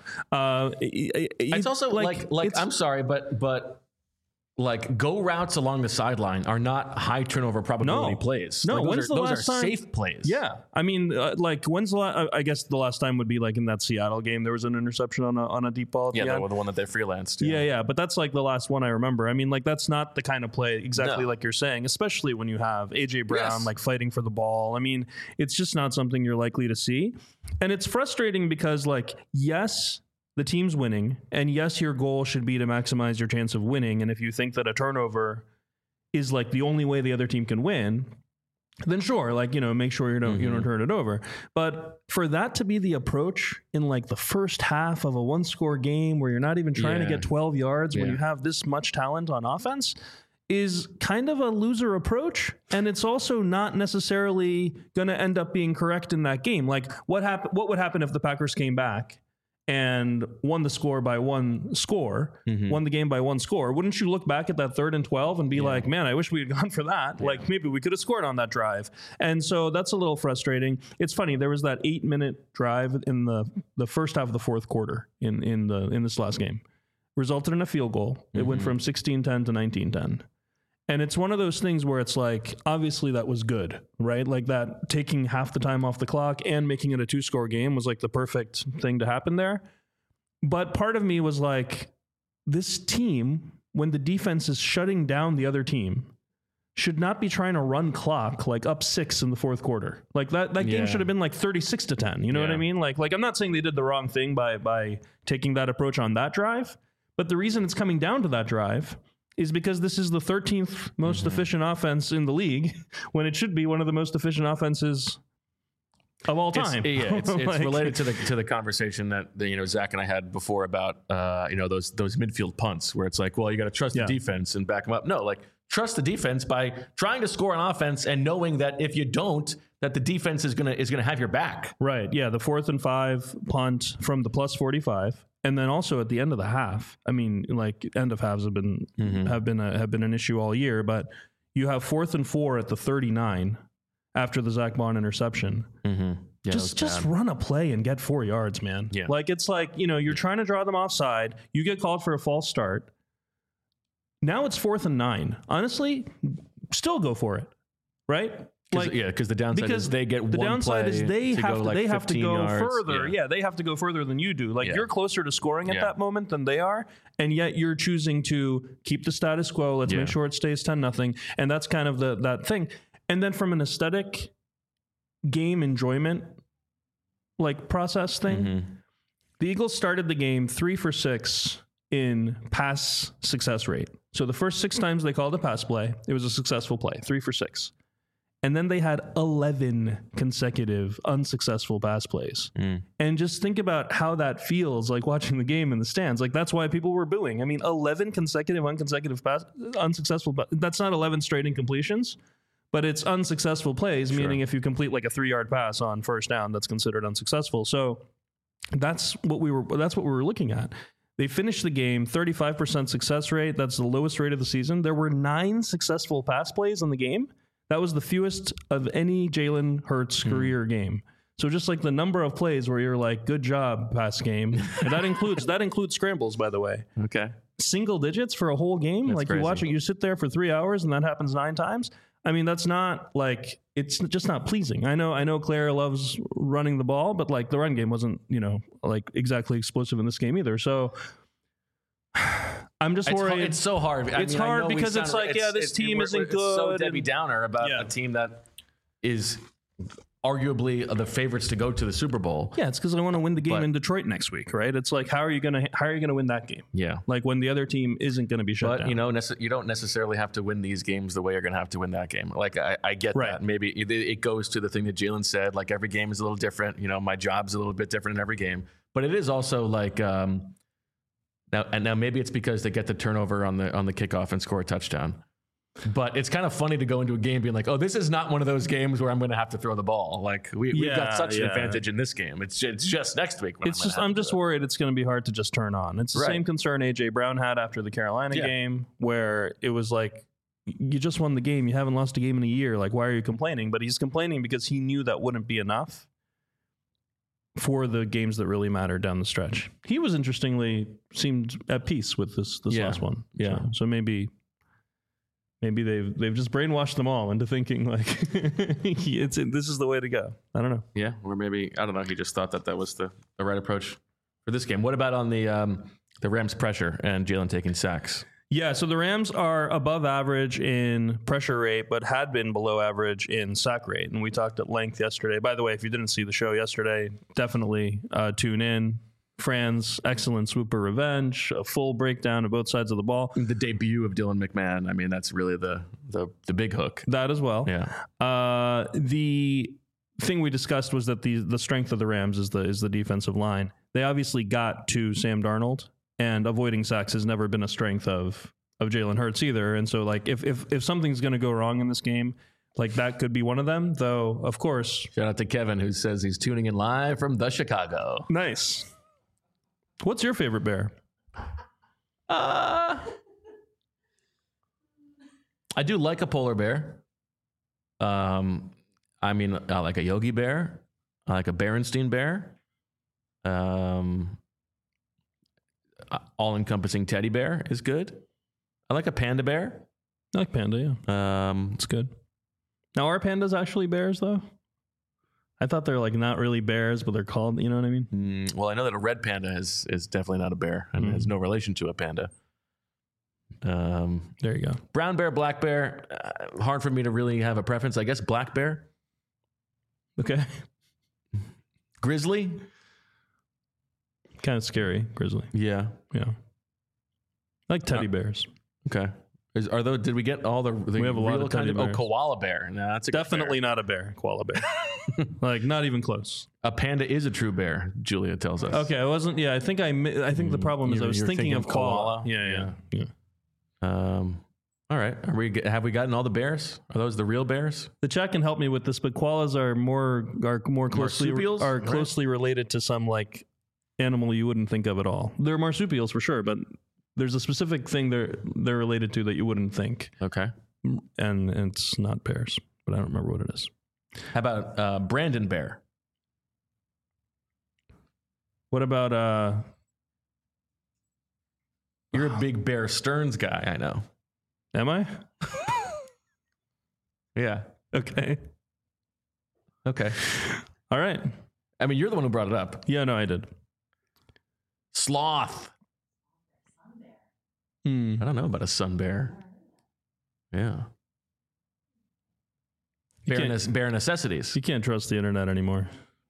It's also like I'm sorry, but like go routes along the sideline are not high turnover probability plays. No, like, those are safe plays. Yeah, I mean, when's the last? I guess the last time would be like in that Seattle game. There was an interception on a deep ball. The one that they freelanced. Yeah, but that's like the last one I remember. I mean, like that's not the kind of play exactly like you're saying, especially when you have AJ Brown like fighting for the ball. I mean, it's just not something you're likely to see, and it's frustrating because yes, the team's winning, and yes, your goal should be to maximize your chance of winning. And if you think that a turnover is like the only way the other team can win, then sure, make sure you don't turn it over. But for that to be the approach in like the first half of a 1-score game where you're not even trying to get 12 yards when you have this much talent on offense is kind of a loser approach. And it's also not necessarily going to end up being correct in that game. Like what would happen if the Packers came back and won the game by 1 score? Wouldn't you look back at that 3rd and 12 and be like, man, I wish we had gone for that. Yeah. Like maybe we could have scored on that drive. And so that's a little frustrating. It's funny. There was that 8-minute drive in the first half of the 4th quarter in this last game, resulted in a field goal. It went from 16-10 to 19-10. And it's one of those things where it's like, obviously that was good, right? Like that taking half the time off the clock and making it a 2-score game was like the perfect thing to happen there. But part of me was like, this team, when the defense is shutting down the other team, should not be trying to run clock like up 6 in the 4th quarter. Like that game should have been like 36-10. You know what I mean? Like I'm not saying they did the wrong thing by taking that approach on that drive, but the reason it's coming down to that drive is because this is the 13th most efficient offense in the league when it should be one of the most efficient offenses of all time. It's related to the conversation that Zach and I had before about those midfield punts where it's like, well, you got to trust the defense and back them up. No, like trust the defense by trying to score on offense and knowing that if you don't, that the defense is gonna have your back. Right. Yeah. The 4th and 5 punt from the plus 45. And then also at the end of the half, I mean, like end of halves have been an issue all year, but you have 4th and 4 at the 39 after the Zach Bond interception. Yeah, just run a play and get 4 yards, man. Yeah. Like it's like, you're trying to draw them offside. You get called for a false start. Now it's 4th and 9. Honestly, still go for it, right? Because the downside is they get the one downside play is they have to go yards. Further. Yeah, they have to go further than you do. Like you're closer to scoring at that moment than they are, and yet you're choosing to keep the status quo. Let's make sure it stays 10-0, and that's kind of that thing. And then from an aesthetic game enjoyment process thing, the Eagles started the game 3 for 6 in pass success rate. So the first 6 times they called a pass play, it was a successful play, 3 for 6. And then they had 11 consecutive unsuccessful pass plays. And just think about how that feels like watching the game in the stands. Like that's why people were booing. I mean, 11 consecutive unsuccessful. That's not 11 straight incompletions, but it's unsuccessful plays, meaning if you complete like a 3-yard pass on first down, that's considered unsuccessful. So that's what we were looking at. They finished the game 35% success rate. That's the lowest rate of the season. There were 9 successful pass plays in the game. That was the fewest of any Jalen Hurts career game. So just like the number of plays where you're like, good job, pass game. And that includes scrambles, by the way. Okay. Single digits for a whole game. That's like crazy. You watch it, you sit there for 3 hours and that happens 9 times. I mean, that's not like, it's just not pleasing. I know Claire loves running the ball, but like the run game wasn't, like exactly explosive in this game either. So I'm just worried. It's so hard. It's hard because it's like, this team isn't good. It's so Debbie Downer about a team that is arguably the favorites to go to the Super Bowl. Yeah, it's because I want to win the game in Detroit next week, right? It's like, how are you gonna win that game? Yeah, like when the other team isn't going to be shut down. You don't necessarily have to win these games the way you're going to have to win that game. Like I get that. Maybe it goes to the thing that Jalen said. Like every game is a little different. My job's a little bit different in every game. But it is also like now maybe it's because they get the turnover on the kickoff and score a touchdown. But it's kind of funny to go into a game being like, oh, this is not one of those games where I'm going to have to throw the ball. Like we've got such an advantage in this game. It's just next week. I'm just worried it's going to be hard to just turn on. It's the same concern AJ Brown had after the Carolina game, where it was like, you just won the game. You haven't lost a game in a year. Like, why are you complaining? But he's complaining because he knew that wouldn't be enough for the games that really matter down the stretch. He was seemed at peace with this last one. Yeah. So maybe they've just brainwashed them all into thinking like this is the way to go. I don't know. Yeah, or maybe I don't know. He just thought that was the right approach for this game. What about on the Rams pressure and Jalen taking sacks? Yeah, so the Rams are above average in pressure rate, but had been below average in sack rate, and we talked at length yesterday. By the way, if you didn't see the show yesterday, definitely tune in. Fran's excellent Swooper Revenge, a full breakdown of both sides of the ball. The debut of Dylan McMahon. I mean, that's really the big hook. That as well. Yeah. The thing we discussed was that the strength of the Rams is the defensive line. They obviously got to Sam Darnold, and avoiding sacks has never been a strength of Jalen Hurts either. And so, like, if something's going to go wrong in this game, like that could be one of them. Though, of course, shout out to Kevin who says he's tuning in live from the Chicago. Nice. What's your favorite bear? I do like a polar bear. I mean, I like a Yogi Bear. I like a Berenstein Bear. All-encompassing teddy bear is good. I like a panda bear. I like panda, yeah. It's good. Now, are pandas actually bears, though? I thought they're like not really bears, but they're called, you know what I mean? Well, I know that a red panda is definitely not a bear and has no relation to a panda. There you go. Brown bear, black bear. Hard for me to really have a preference. I guess black bear. Okay. Grizzly. Kind of scary, grizzly. Yeah. I like teddy bears. Okay. Did we get all the we have a lot of teddy bears. Koala bear. No, that's definitely not a bear. Koala bear. Like not even close. A panda is a true bear, Julia tells us. Okay, I wasn't. Yeah, I think the problem is I was thinking of koala. Yeah. All right. Have we gotten all the bears? Are those the real bears? The chat can help me with this, but koalas are more closely marsupials? Closely related to some like animal you wouldn't think of at all. They're marsupials for sure, but there's a specific thing they're related to that you wouldn't think. Okay. And it's not bears, but I don't remember what it is. How about Brandon Bear? What about You're a big Bear Stearns guy, I know. Am I? Yeah. Okay. All right. I mean, you're the one who brought it up. Yeah, no, I did. Sloth. I don't know about a sun bear. Yeah. Bear necessities. You can't trust the internet anymore.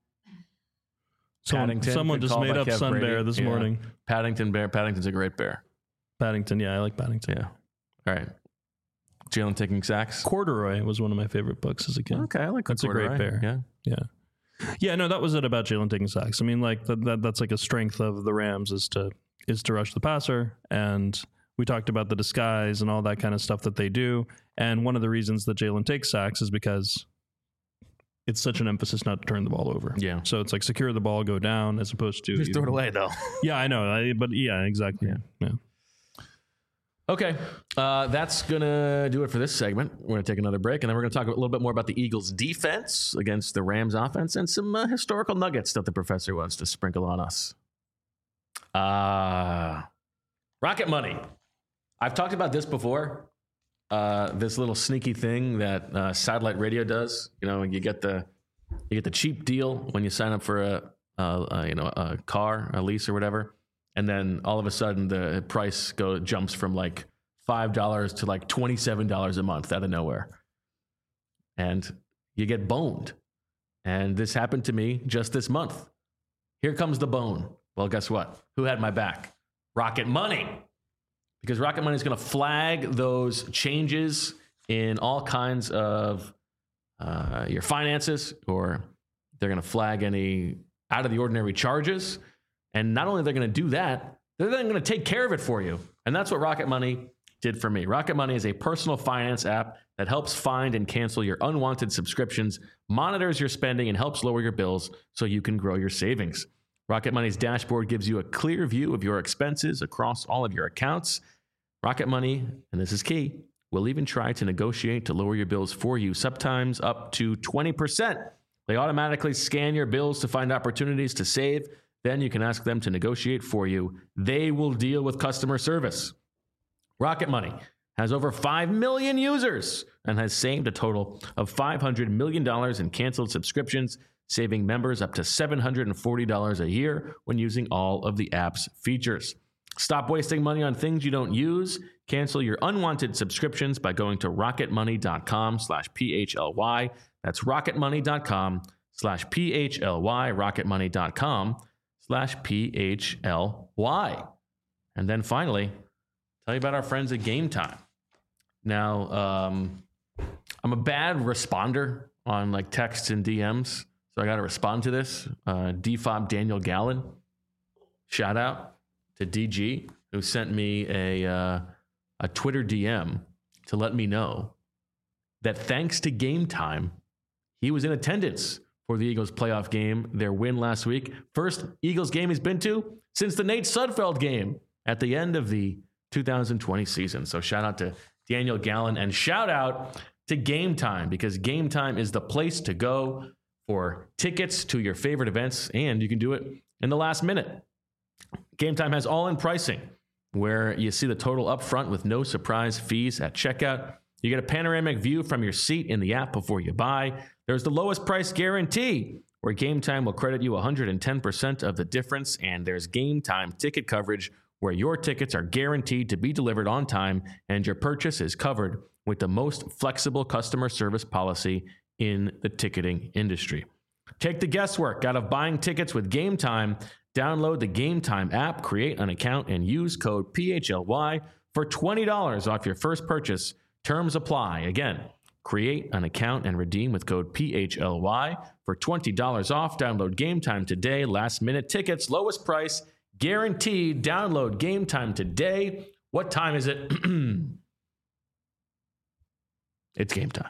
Someone just made up Sun Bear this morning. Paddington Bear. Paddington's a great bear. Paddington, yeah, I like Paddington. Yeah. All right. Jalen taking sacks. Corduroy was one of my favorite books as a kid. Okay, I like that's Corduroy. A great bear. Yeah. No, that was it about Jalen taking sacks. I mean, like that's like a strength of the Rams is to rush the passer, and we talked about the disguise and all that kind of stuff that they do. And one of the reasons that Jalen takes sacks is because it's such an emphasis not to turn the ball over. Yeah. So it's like secure the ball, go down, as opposed to just throw it away though. Yeah, I know, but yeah, exactly. Yeah. Okay, that's going to do it for this segment. We're going to take another break, and then we're going to talk a little bit more about the Eagles' defense against the Rams' offense and some historical nuggets that the professor wants to sprinkle on us. Rocket Money. I've talked about this before, this little sneaky thing that satellite radio does. You know, you get the cheap deal when you sign up for a car, a lease or whatever. and then all of a sudden the price jumps from like $5 to like $27 a month out of nowhere, and you get boned. And this happened to me just this month. Here comes the bone. Well, guess what? Who had my back? Rocket Money. Because Rocket Money is going to flag those changes in all kinds of your finances, or they're going to flag any out of the ordinary charges. And not only are they going to do that, they're then going to take care of it for you. And that's what Rocket Money did for me. Rocket Money is a personal finance app that helps find and cancel your unwanted subscriptions, monitors your spending, and helps lower your bills so you can grow your savings. Rocket Money's dashboard gives you a clear view of your expenses across all of your accounts. Rocket Money, and this is key, will even try to negotiate to lower your bills for you, sometimes up to 20%. They automatically scan your bills to find opportunities to save. Then you can ask them to negotiate for you. They will deal with customer service. Rocket Money has over 5 million users and has saved a total of $500 million in canceled subscriptions, saving members up to $740 a year when using all of the app's features. Stop wasting money on things you don't use. Cancel your unwanted subscriptions by going to rocketmoney.com/PHLY. That's rocketmoney.com/PHLY, rocketmoney.com/PHLY. And then finally, tell you about our friends at Game Time. Now, I'm a bad responder on like texts and DMs, so I got to respond to this. DFOB Daniel Gallen, shout out to DG, who sent me a Twitter DM to let me know that thanks to Game Time, he was in attendance for the Eagles playoff game, their win last week. First Eagles game he's been to since the Nate Sudfeld game at the end of the 2020 season. So shout out to Daniel Gallen, and shout out to Game Time, because Game Time is the place to go for tickets to your favorite events, and you can do it in the last minute. Game Time has all-in pricing, where you see the total up front with no surprise fees at checkout. You get a panoramic view from your seat in the app before you buy. There's the lowest price guarantee, where Game Time will credit you 110% of the difference. And there's Game Time ticket coverage, where your tickets are guaranteed to be delivered on time and your purchase is covered with the most flexible customer service policy in the ticketing industry. Take the guesswork out of buying tickets with Game Time. Download the Game Time app, create an account, and use code PHLY for $20 off your first purchase. Terms apply. Again, create an account and redeem with code PHLY for $20 off. Download Game Time today. Last minute tickets, lowest price, guaranteed. Download Game Time today. What time is it? It's game time.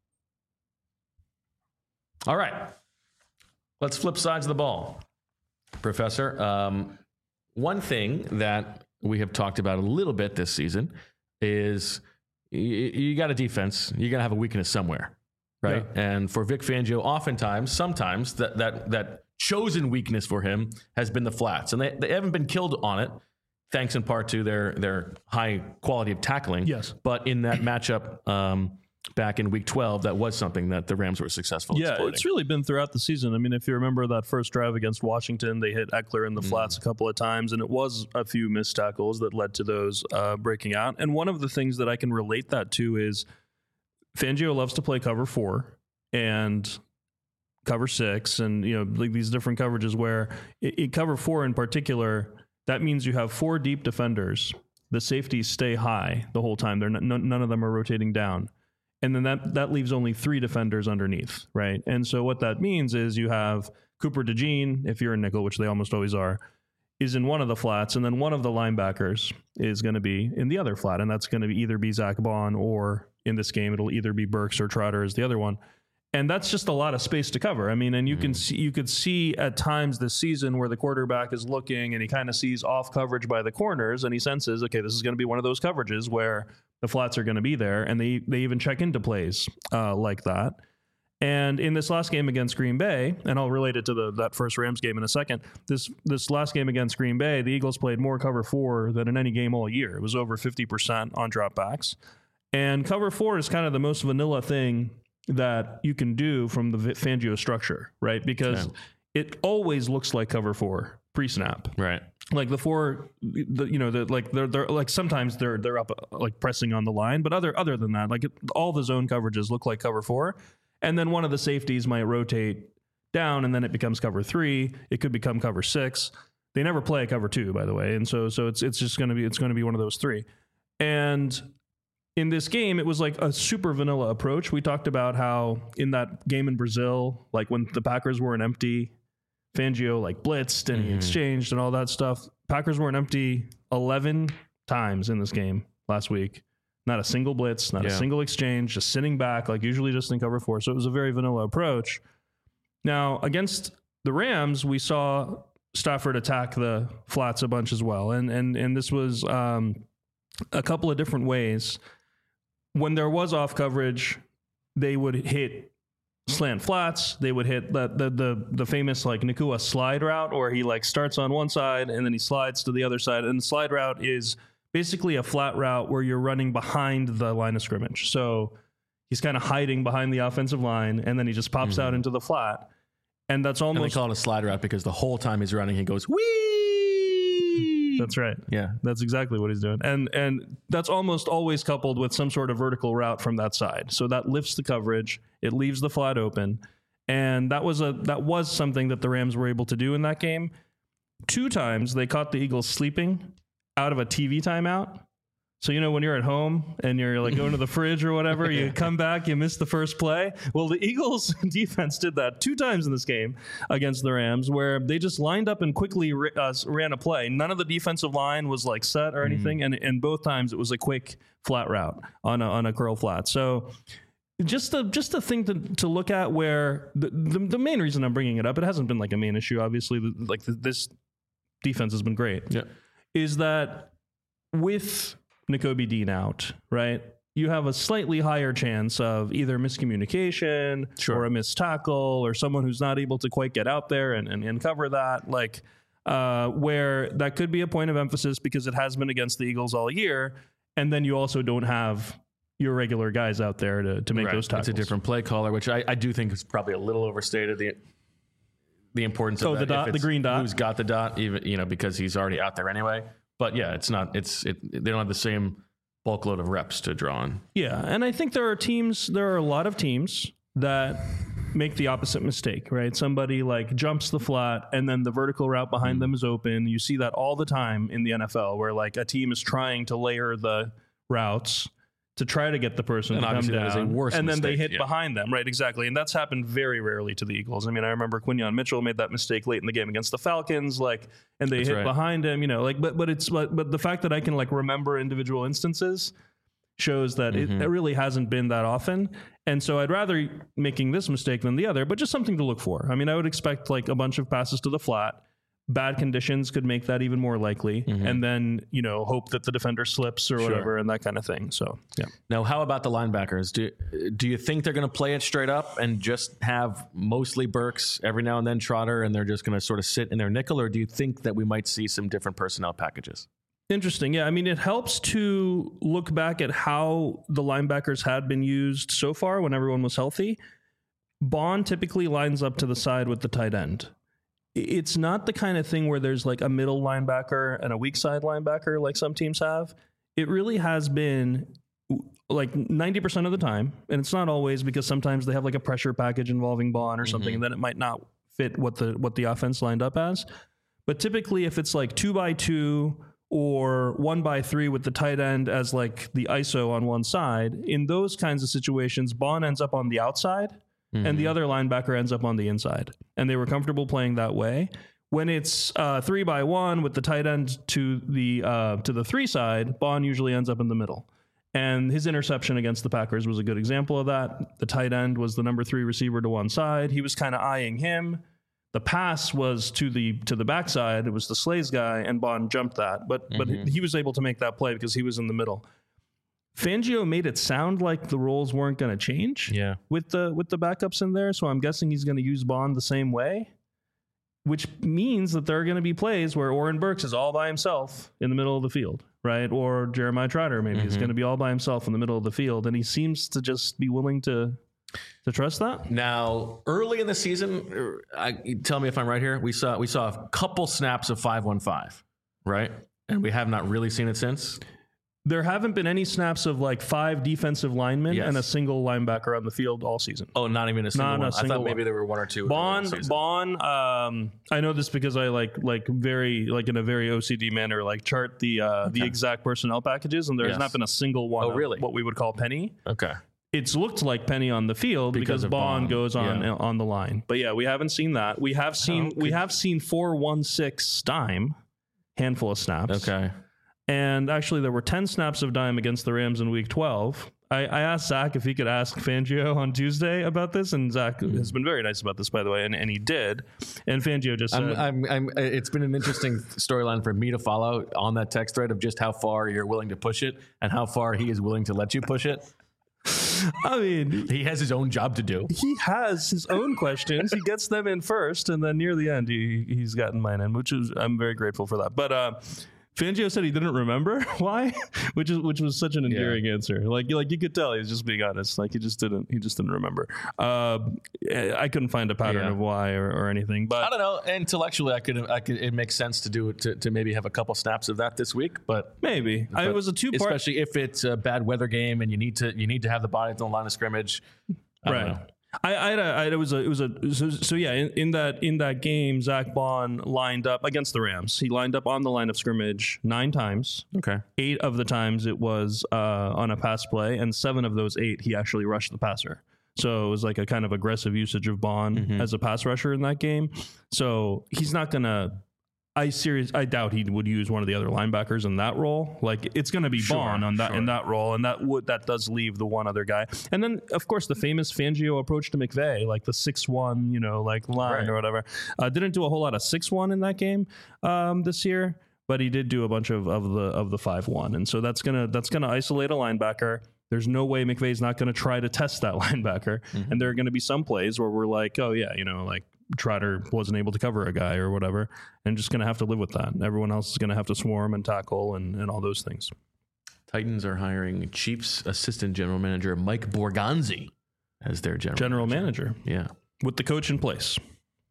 All right. Let's flip sides of the ball. Professor, one thing that we have talked about a little bit this season is you got a defense. You got to have a weakness somewhere, right? Yeah. And for Vic Fangio, sometimes that chosen weakness for him has been the flats, and they haven't been killed on it, thanks in part to their high quality of tackling. Yes, but in that matchup back in Week 12, that was something that the Rams were successful exploiting. Yeah, it's really been throughout the season. I mean, if you remember that first drive against Washington, they hit Eckler in the flats a couple of times, and it was a few missed tackles that led to those breaking out. And one of the things that I can relate that to is Fangio loves to play cover 4 and cover 6, and like these different coverages where in cover 4 in particular, that means you have 4 deep defenders. The safeties stay high the whole time. None of them are rotating down. And then that leaves only 3 defenders underneath, right? And so what that means is you have Cooper DeJean, if you're in nickel, which they almost always are, is in one of the flats, and then one of the linebackers is going to be in the other flat, and that's going to either be Zach Bond, or in this game, it'll either be Burks or Trotter as the other one. And that's just a lot of space to cover. I mean, and you could see at times this season where the quarterback is looking and he kind of sees off coverage by the corners, and he senses, okay, this is going to be one of those coverages where the flats are going to be there, and they even check into plays like that. And in this last game against Green Bay, and I'll relate it to that first Rams game in a second, this last game against Green Bay, the Eagles played more cover 4 than in any game all year. It was over 50% on dropbacks. And cover 4 is kind of the most vanilla thing that you can do from the Fangio structure, right? Because it always looks like cover 4 pre-snap. Right. like they're like sometimes they're up like pressing on the line, but other than that, like all the zone coverages look like cover 4, and then one of the safeties might rotate down, and then it becomes cover 3. It could become cover 6. They never play cover 2, by the way, and so it's just going to be one of those 3. And in this game, it was like a super vanilla approach. We talked about how in that game in Brazil, like when the Packers were an empty, Fangio like blitzed and he exchanged and all that stuff. Packers weren't empty 11 times in this game last week. Not a single blitz, not a single exchange, just sitting back, like usually just in cover 4. So it was a very vanilla approach. Now, against the Rams, we saw Stafford attack the flats a bunch as well. And this was a couple of different ways. When there was off coverage, they would hit slant flats. They would hit the famous like Nacua slide route, where he like starts on one side and then he slides to the other side. And the slide route is basically a flat route where you're running behind the line of scrimmage. So he's kind of hiding behind the offensive line, and then he just pops out into the flat. And that's almost... And they call it a slide route because the whole time he's running, he goes, whee! That's right. Yeah. That's exactly what he's doing. And that's almost always coupled with some sort of vertical route from that side. So that lifts the coverage. It leaves the flat open. And that was something that the Rams were able to do in that game. 2 times they caught the Eagles sleeping out of a TV timeout. So, you know, when you're at home and you're like going to the fridge or whatever, you come back, you miss the first play. Well, the Eagles defense did that 2 times in this game against the Rams, where they just lined up and quickly ran a play. None of the defensive line was like set or anything. And both times it was a quick flat route on a curl flat. So just a thing to look at, where the main reason I'm bringing it up, it hasn't been like a main issue, obviously, like this defense has been great, is that with Nakobe Dean out, right? You have a slightly higher chance of either miscommunication or a missed tackle, or someone who's not able to quite get out there and cover that. Like, where that could be a point of emphasis because it has been against the Eagles all year. And then you also don't have your regular guys out there to make those tackles. It's a different play caller, which I do think is probably a little overstated. The importance of the dot, the green dot. Who's got the dot, even, because he's already out there anyway. But yeah, they don't have the same bulk load of reps to draw on. Yeah, and I think there are a lot of teams that make the opposite mistake, right? Somebody like jumps the flat and then the vertical route behind them is open. You see that all the time in the NFL, where like a team is trying to layer the routes to try to get the person to come down, and then they hit behind them, right? Exactly, and that's happened very rarely to the Eagles. I mean, I remember Quinyon Mitchell made that mistake late in the game against the Falcons, and they hit behind him, but the fact that I can remember individual instances shows that it really hasn't been that often. And so I'd rather making this mistake than the other, but just something to look for. I mean, I would expect a bunch of passes to the flat. Bad conditions could make that even more likely, and then hope that the defender slips or whatever, and that kind of thing. So yeah. Now, how about the linebackers? Do you think they're going to play it straight up and just have mostly Burks, every now and then Trotter, and they're just going to sort of sit in their nickel, or do you think that we might see some different personnel packages? Interesting. Yeah, I mean, it helps to look back at how the linebackers had been used so far when everyone was healthy. Bond typically lines up to the side with the tight end. It's not the kind of thing where there's like a middle linebacker and a weak side linebacker like some teams have. It really has been like 90% of the time, and it's not always, because sometimes they have like a pressure package involving Bond or something, and then it might not fit what the offense lined up as. But typically, if it's like 2x2 or 1x3 with the tight end as like the ISO on one side, in those kinds of situations, Bond ends up on the outside. And the other linebacker ends up on the inside. And they were comfortable playing that way. When it's 3x1 with the tight end to the 3 side, Bond usually ends up in the middle. And his interception against the Packers was a good example of that. The tight end was the number 3 receiver to one side. He was kind of eyeing him. The pass was to the backside. It was the Slays guy, and Bond jumped that. But he was able to make that play because he was in the middle. Fangio made it sound like the roles weren't going to change with the backups in there. So I'm guessing he's going to use Bond the same way, which means that there are going to be plays where Oren Burks is all by himself in the middle of the field, right? Or Jeremiah Trotter maybe is going to be all by himself in the middle of the field. And he seems to just be willing to trust that. Now, early in the season, tell me if I'm right here, we saw a couple snaps of 5-1-5. right? And we have not really seen it since. There haven't been any snaps of like 5 defensive linemen and a single linebacker on the field all season. Oh, not even a single one. I thought maybe there were 1 or 2. Bond. I know this because I like very in a very OCD manner chart the exact personnel packages, and there has not been a single one. Oh, really? What we would call penny. Okay. It's looked like penny on the field because Bond goes on the line. But yeah, we haven't seen that. We have seen 4-1-6 dime, handful of snaps. Okay. And actually, there were 10 snaps of dime against the Rams in Week 12. I asked Zach if he could ask Fangio on Tuesday about this, and Zach has been very nice about this, by the way, and he did. And Fangio just said... it's been an interesting storyline for me to follow on that text thread of just how far you're willing to push it and how far he is willing to let you push it. I mean, he has his own job to do. He has his own questions. He gets them in first, and then near the end, he's gotten mine in, I'm very grateful for that. But Fangio said he didn't remember why, which was such an endearing answer. Like you could tell he was just being honest. Like he just didn't remember. I couldn't find a pattern of why or anything. But I don't know. Intellectually, I could. It makes sense to do it to maybe have a couple snaps of that this week. But maybe it was a 2-part, especially if it's a bad weather game and you need to have the body on the line of scrimmage. I don't know. In that game, Zach Bond lined up against the Rams. He lined up on the line of scrimmage 9 times. Okay. 8 of the times it was on a pass play, and 7 of those 8 he actually rushed the passer. So it was like a kind of aggressive usage of Bond as a pass rusher in that game. So he's not gonna. I doubt he would use one of the other linebackers in that role. Like it's going to be Bond in that role, and that does leave the one other guy. And then of course the famous Fangio approach to McVay, like the 6-1, line or whatever. Didn't do a whole lot of 6-1 in that game this year, but he did do a bunch of the 5-1, and so that's gonna isolate a linebacker. There's no way McVay's not going to try to test that linebacker, and there are going to be some plays where we're like, oh yeah, Trotter wasn't able to cover a guy or whatever, and just going to have to live with that. Everyone else is going to have to swarm and tackle and all those things. Titans are hiring Chiefs assistant general manager Mike Borgonzi as their general manager. Yeah. With the coach in place.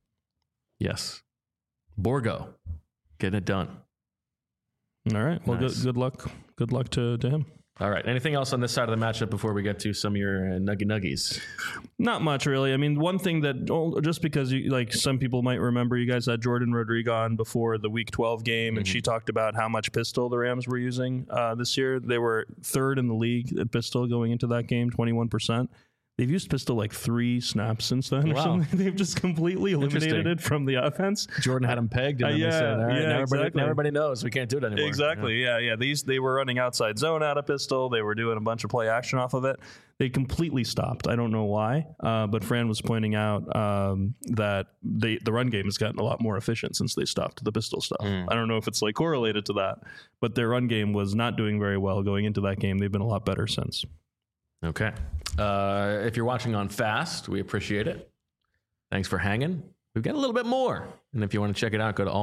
Yes. Borgo. Getting it done. All right. Well, nice. Good luck. Good luck to him. All right. Anything else on this side of the matchup before we get to some of your nuggies? Not much, really. I mean, one thing that just because some people might remember, you guys had Jordan Rodrigo on before the Week 12 game, and she talked about how much pistol the Rams were using this year. They were 3rd in the league at pistol going into that game, 21%. They've used pistol 3 snaps since then or something. They've just completely eliminated it from the offense. Jordan had him pegged. And then they said, all right, now everybody knows we can't do it anymore. Exactly. Yeah. They were running outside zone out of pistol. They were doing a bunch of play action off of it. They completely stopped. I don't know why, but Fran was pointing out that the run game has gotten a lot more efficient since they stopped the pistol stuff. I don't know if it's correlated to that, but their run game was not doing very well going into that game. They've been a lot better since. Okay. If you're watching on Fast, we appreciate it. Thanks for hanging. We've got a little bit more. And if you want to check it out, go to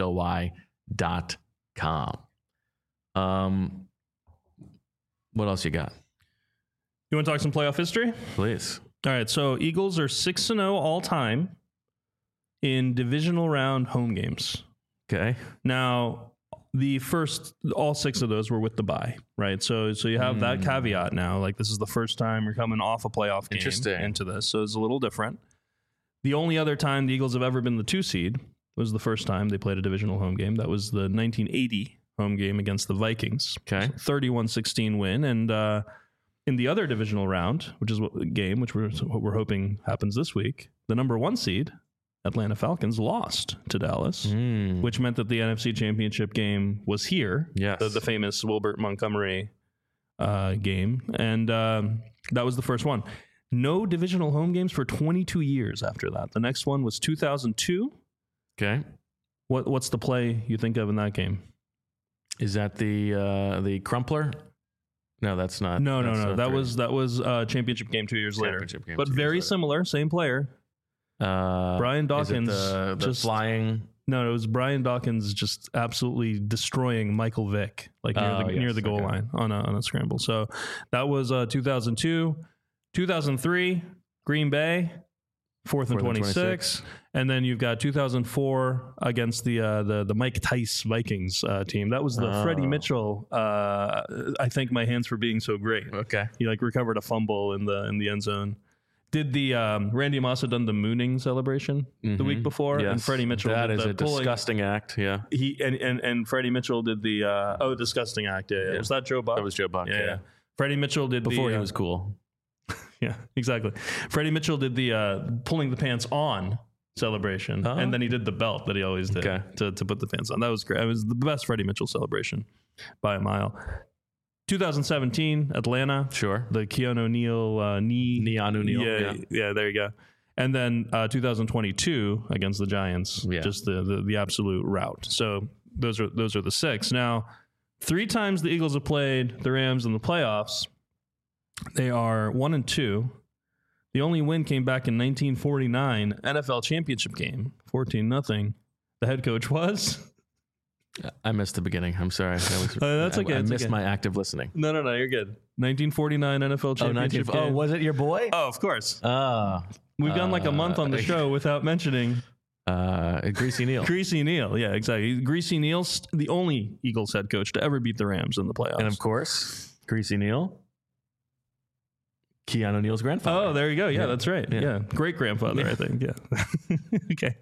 allphly.com. What else you got? You want to talk some playoff history? Please. All right. So Eagles are 6-0 all time in divisional round home games. Okay. Now, all 6 of those were with the bye, right? So you have that caveat now. This is the first time you're coming off a playoff game into this, so it's a little different. The only other time the Eagles have ever been the 2 seed was the first time they played a divisional home game. That was the 1980 home game against the Vikings. Okay, 31-16 win, and in the other divisional round, which we're hoping happens this week, the number 1 seed, Atlanta Falcons, lost to Dallas, which meant that the NFC Championship game was here. Yes. The famous Wilbert Montgomery game. And that was the first one. No divisional home games for 22 years after that. The next one was 2002. Okay. What's the play you think of in that game? Is that the Crumpler? No, that's not. No. That was championship game 2 years later. But very similar, same player. Brian Dawkins just flying. No, it was Brian Dawkins just absolutely destroying Michael Vick near the goal line on a scramble. So that was 2002, 2003 Green Bay. 4th and 26. And then you've got 2004 against the Mike Tice Vikings team. That was the Freddie Mitchell. I thank my hands for being so great. Okay. He recovered a fumble in the end zone. Did the Randy Moss had done the mooning celebration the week before? Yes. And Freddie Mitchell That did is the a pulling. disgusting act. Yeah. He and Freddie Mitchell did the disgusting act. Yeah. Was that Joe Buck? That was Joe Buck. Yeah. Freddie Mitchell did Before he was cool. Yeah, exactly. Freddie Mitchell did the pulling the pants on celebration, and then he did the belt that he always did to put the pants on. That was great. It was the best Freddie Mitchell celebration by a mile. 2017, Atlanta. Sure. The Keanu Neal Neon O'Neal. Yeah, there you go. And then 2022 against the Giants. Yeah. Just the absolute rout. So those are the 6. Now, 3 times the Eagles have played the Rams in the playoffs. They are 1-2. The only win came back in 1949 NFL championship game, 14-0 The head coach was. I missed the beginning. I'm sorry. That's okay. I missed my active listening. No, you're good. 1949 NFL championship game. Was it your boy? Oh, of course. We've gone like a month on the show without mentioning Greasy Neal. Greasy Neal, yeah, exactly. Greasy Neal's the only Eagles head coach to ever beat the Rams in the playoffs. And of course, Greasy Neal, Keanu Neal's grandfather. Oh, there you go. Yeah, that's right. Yeah. Great grandfather, I think. Yeah. Okay.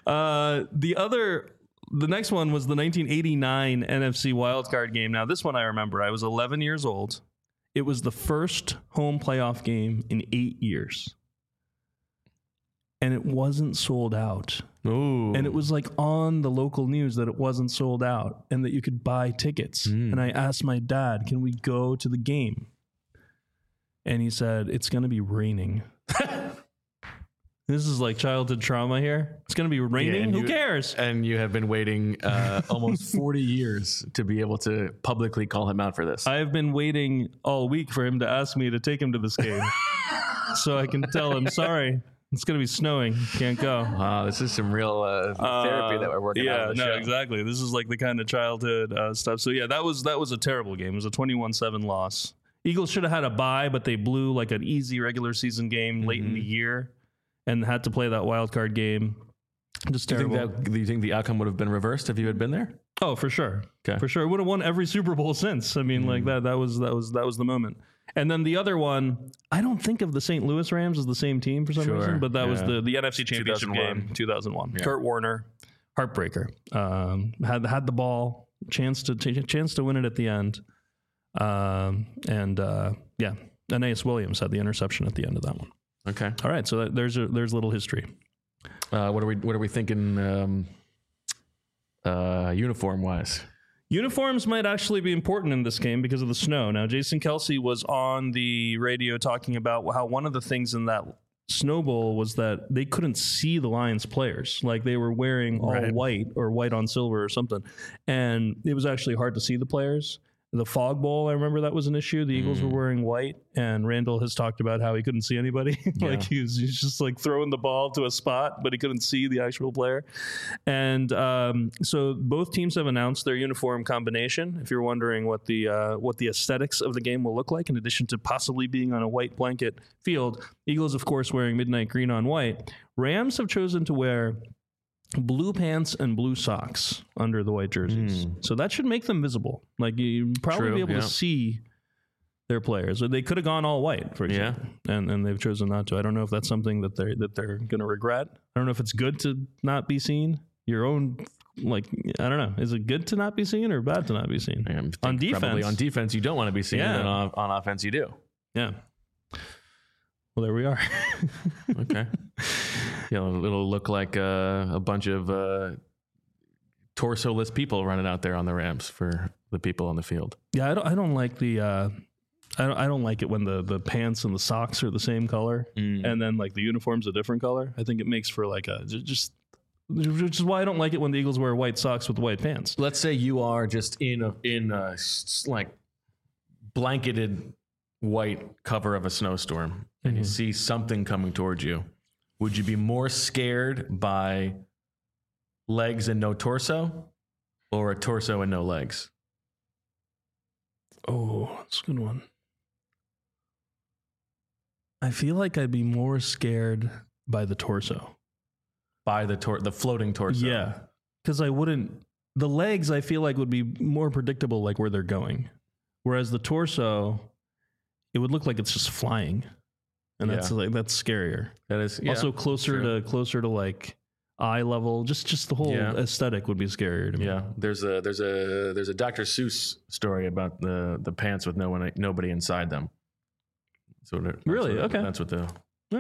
The next one was the 1989 NFC wildcard game. Now, this one I remember. I was 11 years old. It was the first home playoff game in 8 years. And it wasn't sold out. Ooh. And it was on the local news that it wasn't sold out and that you could buy tickets. And I asked my dad, can we go to the game? And he said, it's going to be raining. This is childhood trauma here. It's going to be raining. Who cares? And you have been waiting almost 40 years to be able to publicly call him out for this. I've been waiting all week for him to ask me to take him to this game. So I can tell him, sorry, it's going to be snowing. Can't go. Wow, this is some real therapy that we're working on. Yeah, no, exactly. This is the kind of childhood stuff. So yeah, that was a terrible game. It was a 21-7 loss. Eagles should have had a bye, but they blew an easy regular season game late in the year and had to play that wild card game. Just terrible. Do you think the outcome would have been reversed if you had been there? Oh, for sure. Okay. For sure. It would have won every Super Bowl since. I mean, that was the moment. And then the other one, I don't think of the St. Louis Rams as the same team for some reason, but that was the NFC Championship game, 2001. Yeah. Kurt Warner, heartbreaker. Had the ball, chance to win it at the end. Aeneas Williams had the interception at the end of that one. Okay. All right. So there's a little history. What are we thinking uniform wise? Uniforms might actually be important in this game because of the snow. Now, Jason Kelce was on the radio talking about how one of the things in that Snow Bowl was that they couldn't see the Lions players. They were wearing all white or white on silver or something. And it was actually hard to see the players. The Fog Bowl, I remember that was an issue. The Eagles were wearing white, and Randall has talked about how he couldn't see anybody. He's just throwing the ball to a spot, but he couldn't see the actual player. And so both teams have announced their uniform combination. If you're wondering what the aesthetics of the game will look like, in addition to possibly being on a white blanket field, Eagles, of course, wearing midnight green on white. Rams have chosen to wear blue pants and blue socks under the white jerseys. So that should make them visible. You probably be able to see their players. Or they could have gone all white, for example. And they've chosen not to. I don't know if that's something that they're going to regret. I don't know if it's good to not be seen. Your own, I don't know. Is it good to not be seen or bad to not be seen? On defense. Probably on defense, you don't want to be seen. And on offense, you do. Yeah. Well, there we are. Okay. It'll look like a bunch of torso-less people running out there on the Rams for the people on the field. Yeah, I don't like the. I don't like it when the pants and the socks are the same color, and then the uniform's a different color. I think it makes for which is why I don't like it when the Eagles wear white socks with white pants. Let's say you are just in a blanketed white cover of a snowstorm, and you see something coming towards you. Would you be more scared by legs and no torso, or a torso and no legs? Oh, that's a good one. I feel like I'd be more scared by the torso. By the floating torso. Yeah. Because the legs I feel like would be more predictable, like where they're going. Whereas the torso, it would look like it's just flying. And that's scarier. That is also closer to like eye level. Just the whole aesthetic would be scarier to me. Yeah. There's a Dr. Seuss story about the pants with nobody inside them. So okay. That's what the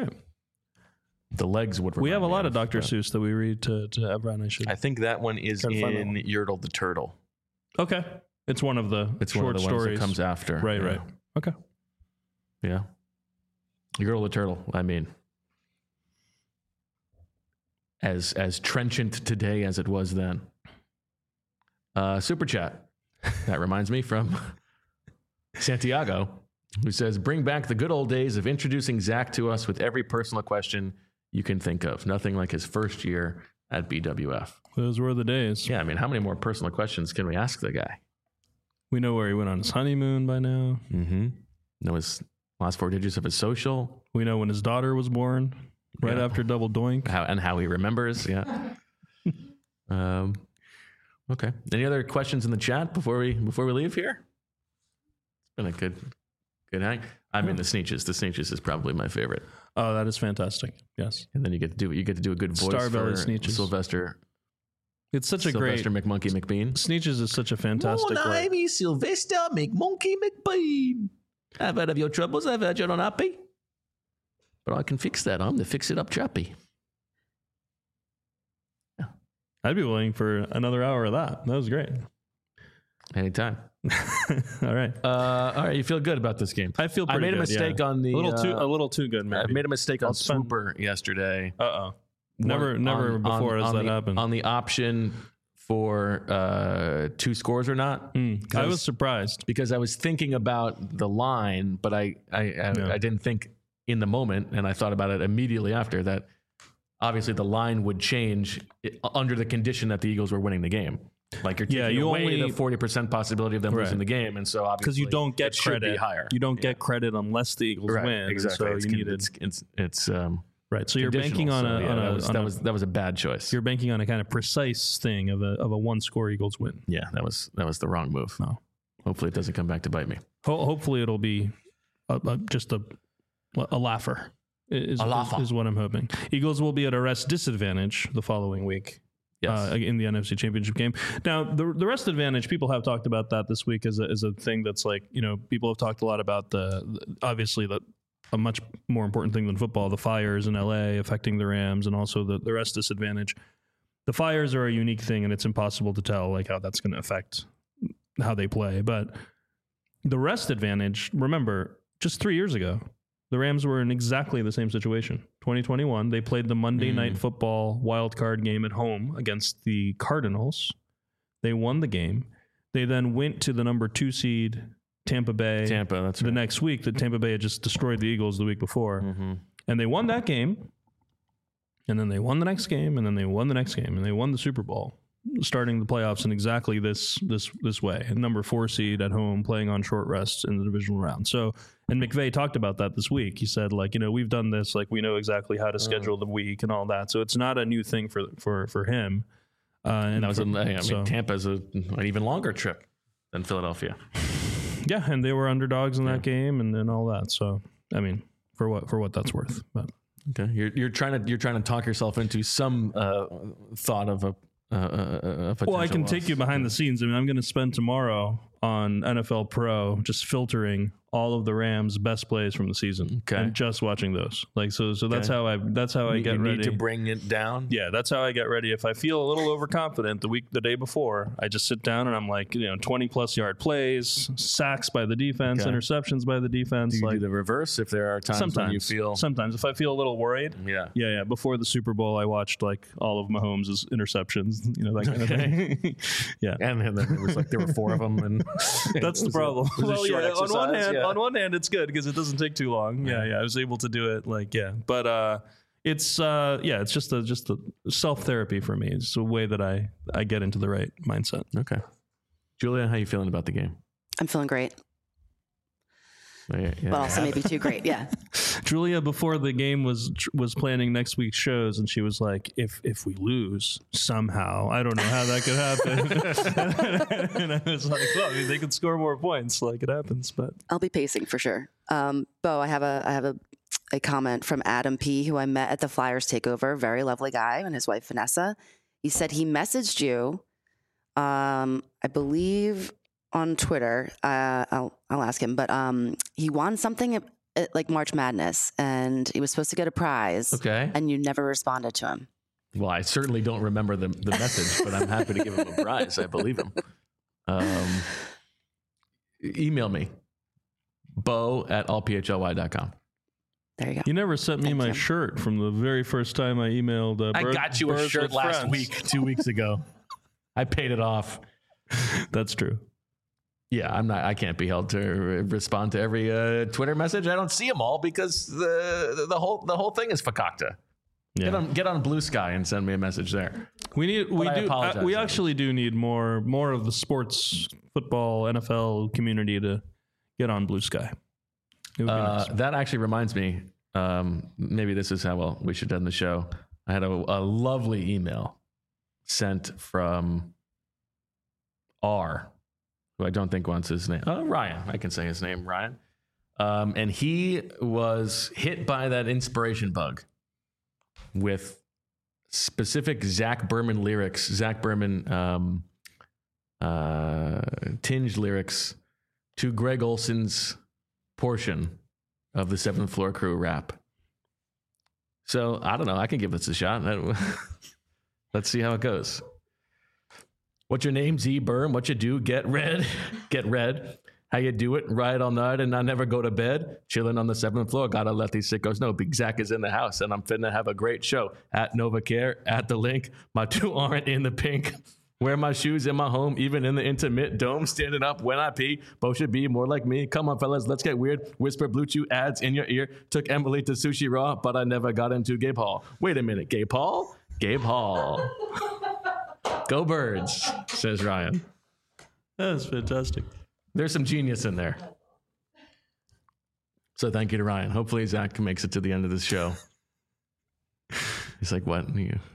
legs would. We have a lot of Dr. Seuss that we read to everyone. I think that one is in Yertle the Turtle. Okay, it's one of the short stories that comes after. Right. Okay. Yeah. Yertle the Turtle. I mean, as trenchant today as it was then. Super chat. That reminds me from Santiago, who says, "Bring back the good old days of introducing Zach to us with every personal question you can think of. Nothing like his first year at BWF." Those were the days. Yeah, I mean, how many more personal questions can we ask the guy? We know where he went on his honeymoon by now. Mm-hmm. Know his last 4 digits of his social. We know when his daughter was born, right after Double Doink. How he remembers, yeah. Okay. Any other questions in the chat before we leave here? It's been a good hang. I mean, the Sneetches. The Sneetches is probably my favorite. Oh, that is fantastic. Yes. And then you get to do a good voice for Sneetches. Sylvester. It's such a great Sylvester McMonkey McBean. Sneetches is such a fantastic. I'm Sylvester McMonkey McBean. I've heard of your troubles. I've heard you're unhappy. But I can fix that. I'm the fix-it-up chappy. Yeah. I'd be willing for another hour of that. That was great. Anytime. All right. All right. You feel good about this game? I feel pretty good. I made a mistake on the... A little too good, maybe. I made a mistake on Swooper yesterday. Uh-oh. Never before has that happened. On the option for 2 scores or not. I was surprised. Because I was thinking about the line, but I didn't think in the moment, and I thought about it immediately after that. Obviously, the line would change under the condition that the Eagles were winning the game. Like you're taking away the 40% possibility of them losing the game, and so obviously because you don't get credit, higher. You don't get credit unless the Eagles win. Exactly. So you need it's right. So you're banking on that was a bad choice. You're banking on a kind of precise thing of a 1-score Eagles win. Yeah, that was the wrong move. No. Hopefully, it doesn't come back to bite me. Hopefully, it'll be just a laugher. Is what I'm hoping. Eagles will be at a rest disadvantage the following week. Yes. In the NFC Championship game. Now, the rest advantage, people have talked about that this week as a thing that's like, people have talked a lot about obviously a much more important thing than football, the fires in LA affecting the Rams and also the rest disadvantage. The fires are a unique thing and it's impossible to tell like how that's going to affect how they play. But the rest advantage, remember, just 3 years ago, the Rams were in exactly the same situation. 2021, they played the Monday Night Football wild card game at home against the Cardinals. They won the game. They then went to the number 2 seed, Tampa Bay. That's the next week. That Tampa Bay had just destroyed the Eagles the week before. Mm-hmm. And they won that game. And then they won the next game. And then they won the next game. And they won the Super Bowl, starting the playoffs in exactly this way. Number 4 seed at home, playing on short rests in the divisional round. So, and McVay talked about that this week. He said, we've done this, we know exactly how to schedule the week and all that. So it's not a new thing for him. And that was Tampa's an even longer trip than Philadelphia. Yeah, and they were underdogs in that game and all that. So, I mean, for what that's worth. But okay, you're trying to talk yourself into some thought of a well, I can take you behind the scenes. I mean, I'm going to spend tomorrow on NFL Pro just filtering all of the Rams' best plays from the season and just watching those. So that's how I get ready. You need to bring it down. Yeah, that's how I get ready. If I feel a little overconfident the day before, I just sit down and I'm 20+ yard plays, sacks by the defense, interceptions by the defense. Do you do the reverse if there are times when you feel? Sometimes if I feel a little worried. Yeah. Before the Super Bowl, I watched all of Mahomes' interceptions. That kind of thing. Yeah, and then it was there were 4 of them, and that's the problem. On one hand, it's good because it doesn't take too long. Yeah, I was able to do it. But it's just a self therapy for me. It's a way that I get into the right mindset. Okay, Julia, how you feeling about the game? I'm feeling great. but also maybe too great. Yeah. Julia, before the game, was planning next week's shows, and she was like, if we lose somehow, I don't know how that could happen. And I was like, well, I mean, they could score more points, like it happens, but I'll be pacing for sure. Bo, I have a comment from Adam P, who I met at the Flyers takeover. Very lovely guy, and his wife Vanessa. He said he messaged you, I believe, on Twitter. I'll ask him, but he won something at like March Madness, and he was supposed to get a prize. Okay, and you never responded to him. Well, I certainly don't remember the message, but I'm happy to give him a prize. I believe him. Email me, bo@allphly.com. There you go. You never sent me my shirt from the very first time I emailed. I got you a shirt last week, 2 weeks ago. I paid it off. That's true. Yeah, I can't be held to respond to every Twitter message. I don't see them all because the whole thing is fakakta. Yeah. Get on Blue Sky and send me a message there. We actually do need more of the sports, football, NFL community to get on Blue Sky. Nice. That actually reminds me. Maybe this is how we should end the show. I had a lovely email sent from R, who I don't think wants his name. Ryan. I can say his name, Ryan. And he was hit by that inspiration bug with specific Zach Berman lyrics, Zach Berman tinged lyrics to Greg Olson's portion of the 7th Floor Crew rap. So I don't know. I can give this a shot. Let's see how it goes. What's your name, Z Berm? What you do? Get red. Get red. How you do it? Ride all night and I never go to bed. Chilling on the 7th floor. Gotta let these sickos know. Big Zach is in the house and I'm finna have a great show. At NovaCare, at the link. My 2 aren't in the pink. Wear my shoes in my home, even in the intimate dome. Standing up when I pee. Both should be more like me. Come on, fellas, let's get weird. Whisper Blue Chew ads in your ear. Took Emily to Sushi Raw, but I never got into Gabe Hall. Wait a minute, Gabe Hall? Gabe Hall. Go Birds, says Ryan. That's fantastic. There's some genius in there. So thank you to Ryan. Hopefully Zach makes it to the end of this show. He's like, what?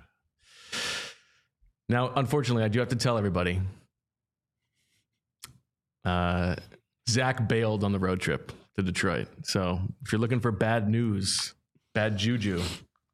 Now, unfortunately, I do have to tell everybody, Zach bailed on the road trip to Detroit. So if you're looking for bad news, bad juju,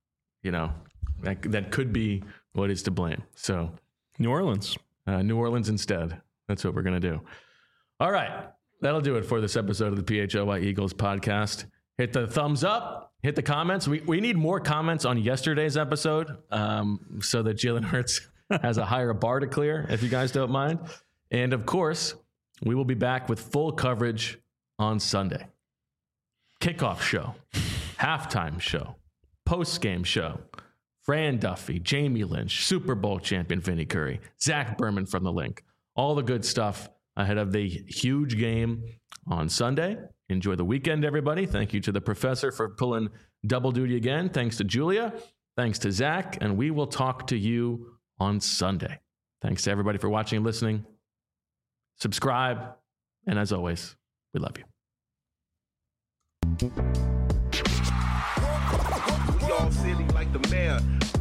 that could be what is to blame. So New Orleans instead. That's what we're going to do. All right. That'll do it for this episode of the PHLY Eagles podcast. Hit the thumbs up, hit the comments. We need more comments on yesterday's episode so that Jalen Hurts has a higher bar to clear, if you guys don't mind. And of course, we will be back with full coverage on Sunday. Kickoff show, halftime show, post-game show, Fran Duffy, Jamie Lynch, Super Bowl champion Vinny Curry, Zach Berman from the link. All the good stuff ahead of the huge game on Sunday. Enjoy the weekend, everybody. Thank you to the professor for pulling double duty again. Thanks to Julia. Thanks to Zach. And we will talk to you on Sunday. Thanks to everybody for watching and listening. Subscribe. And as always, we love you. We all silly like the mayor.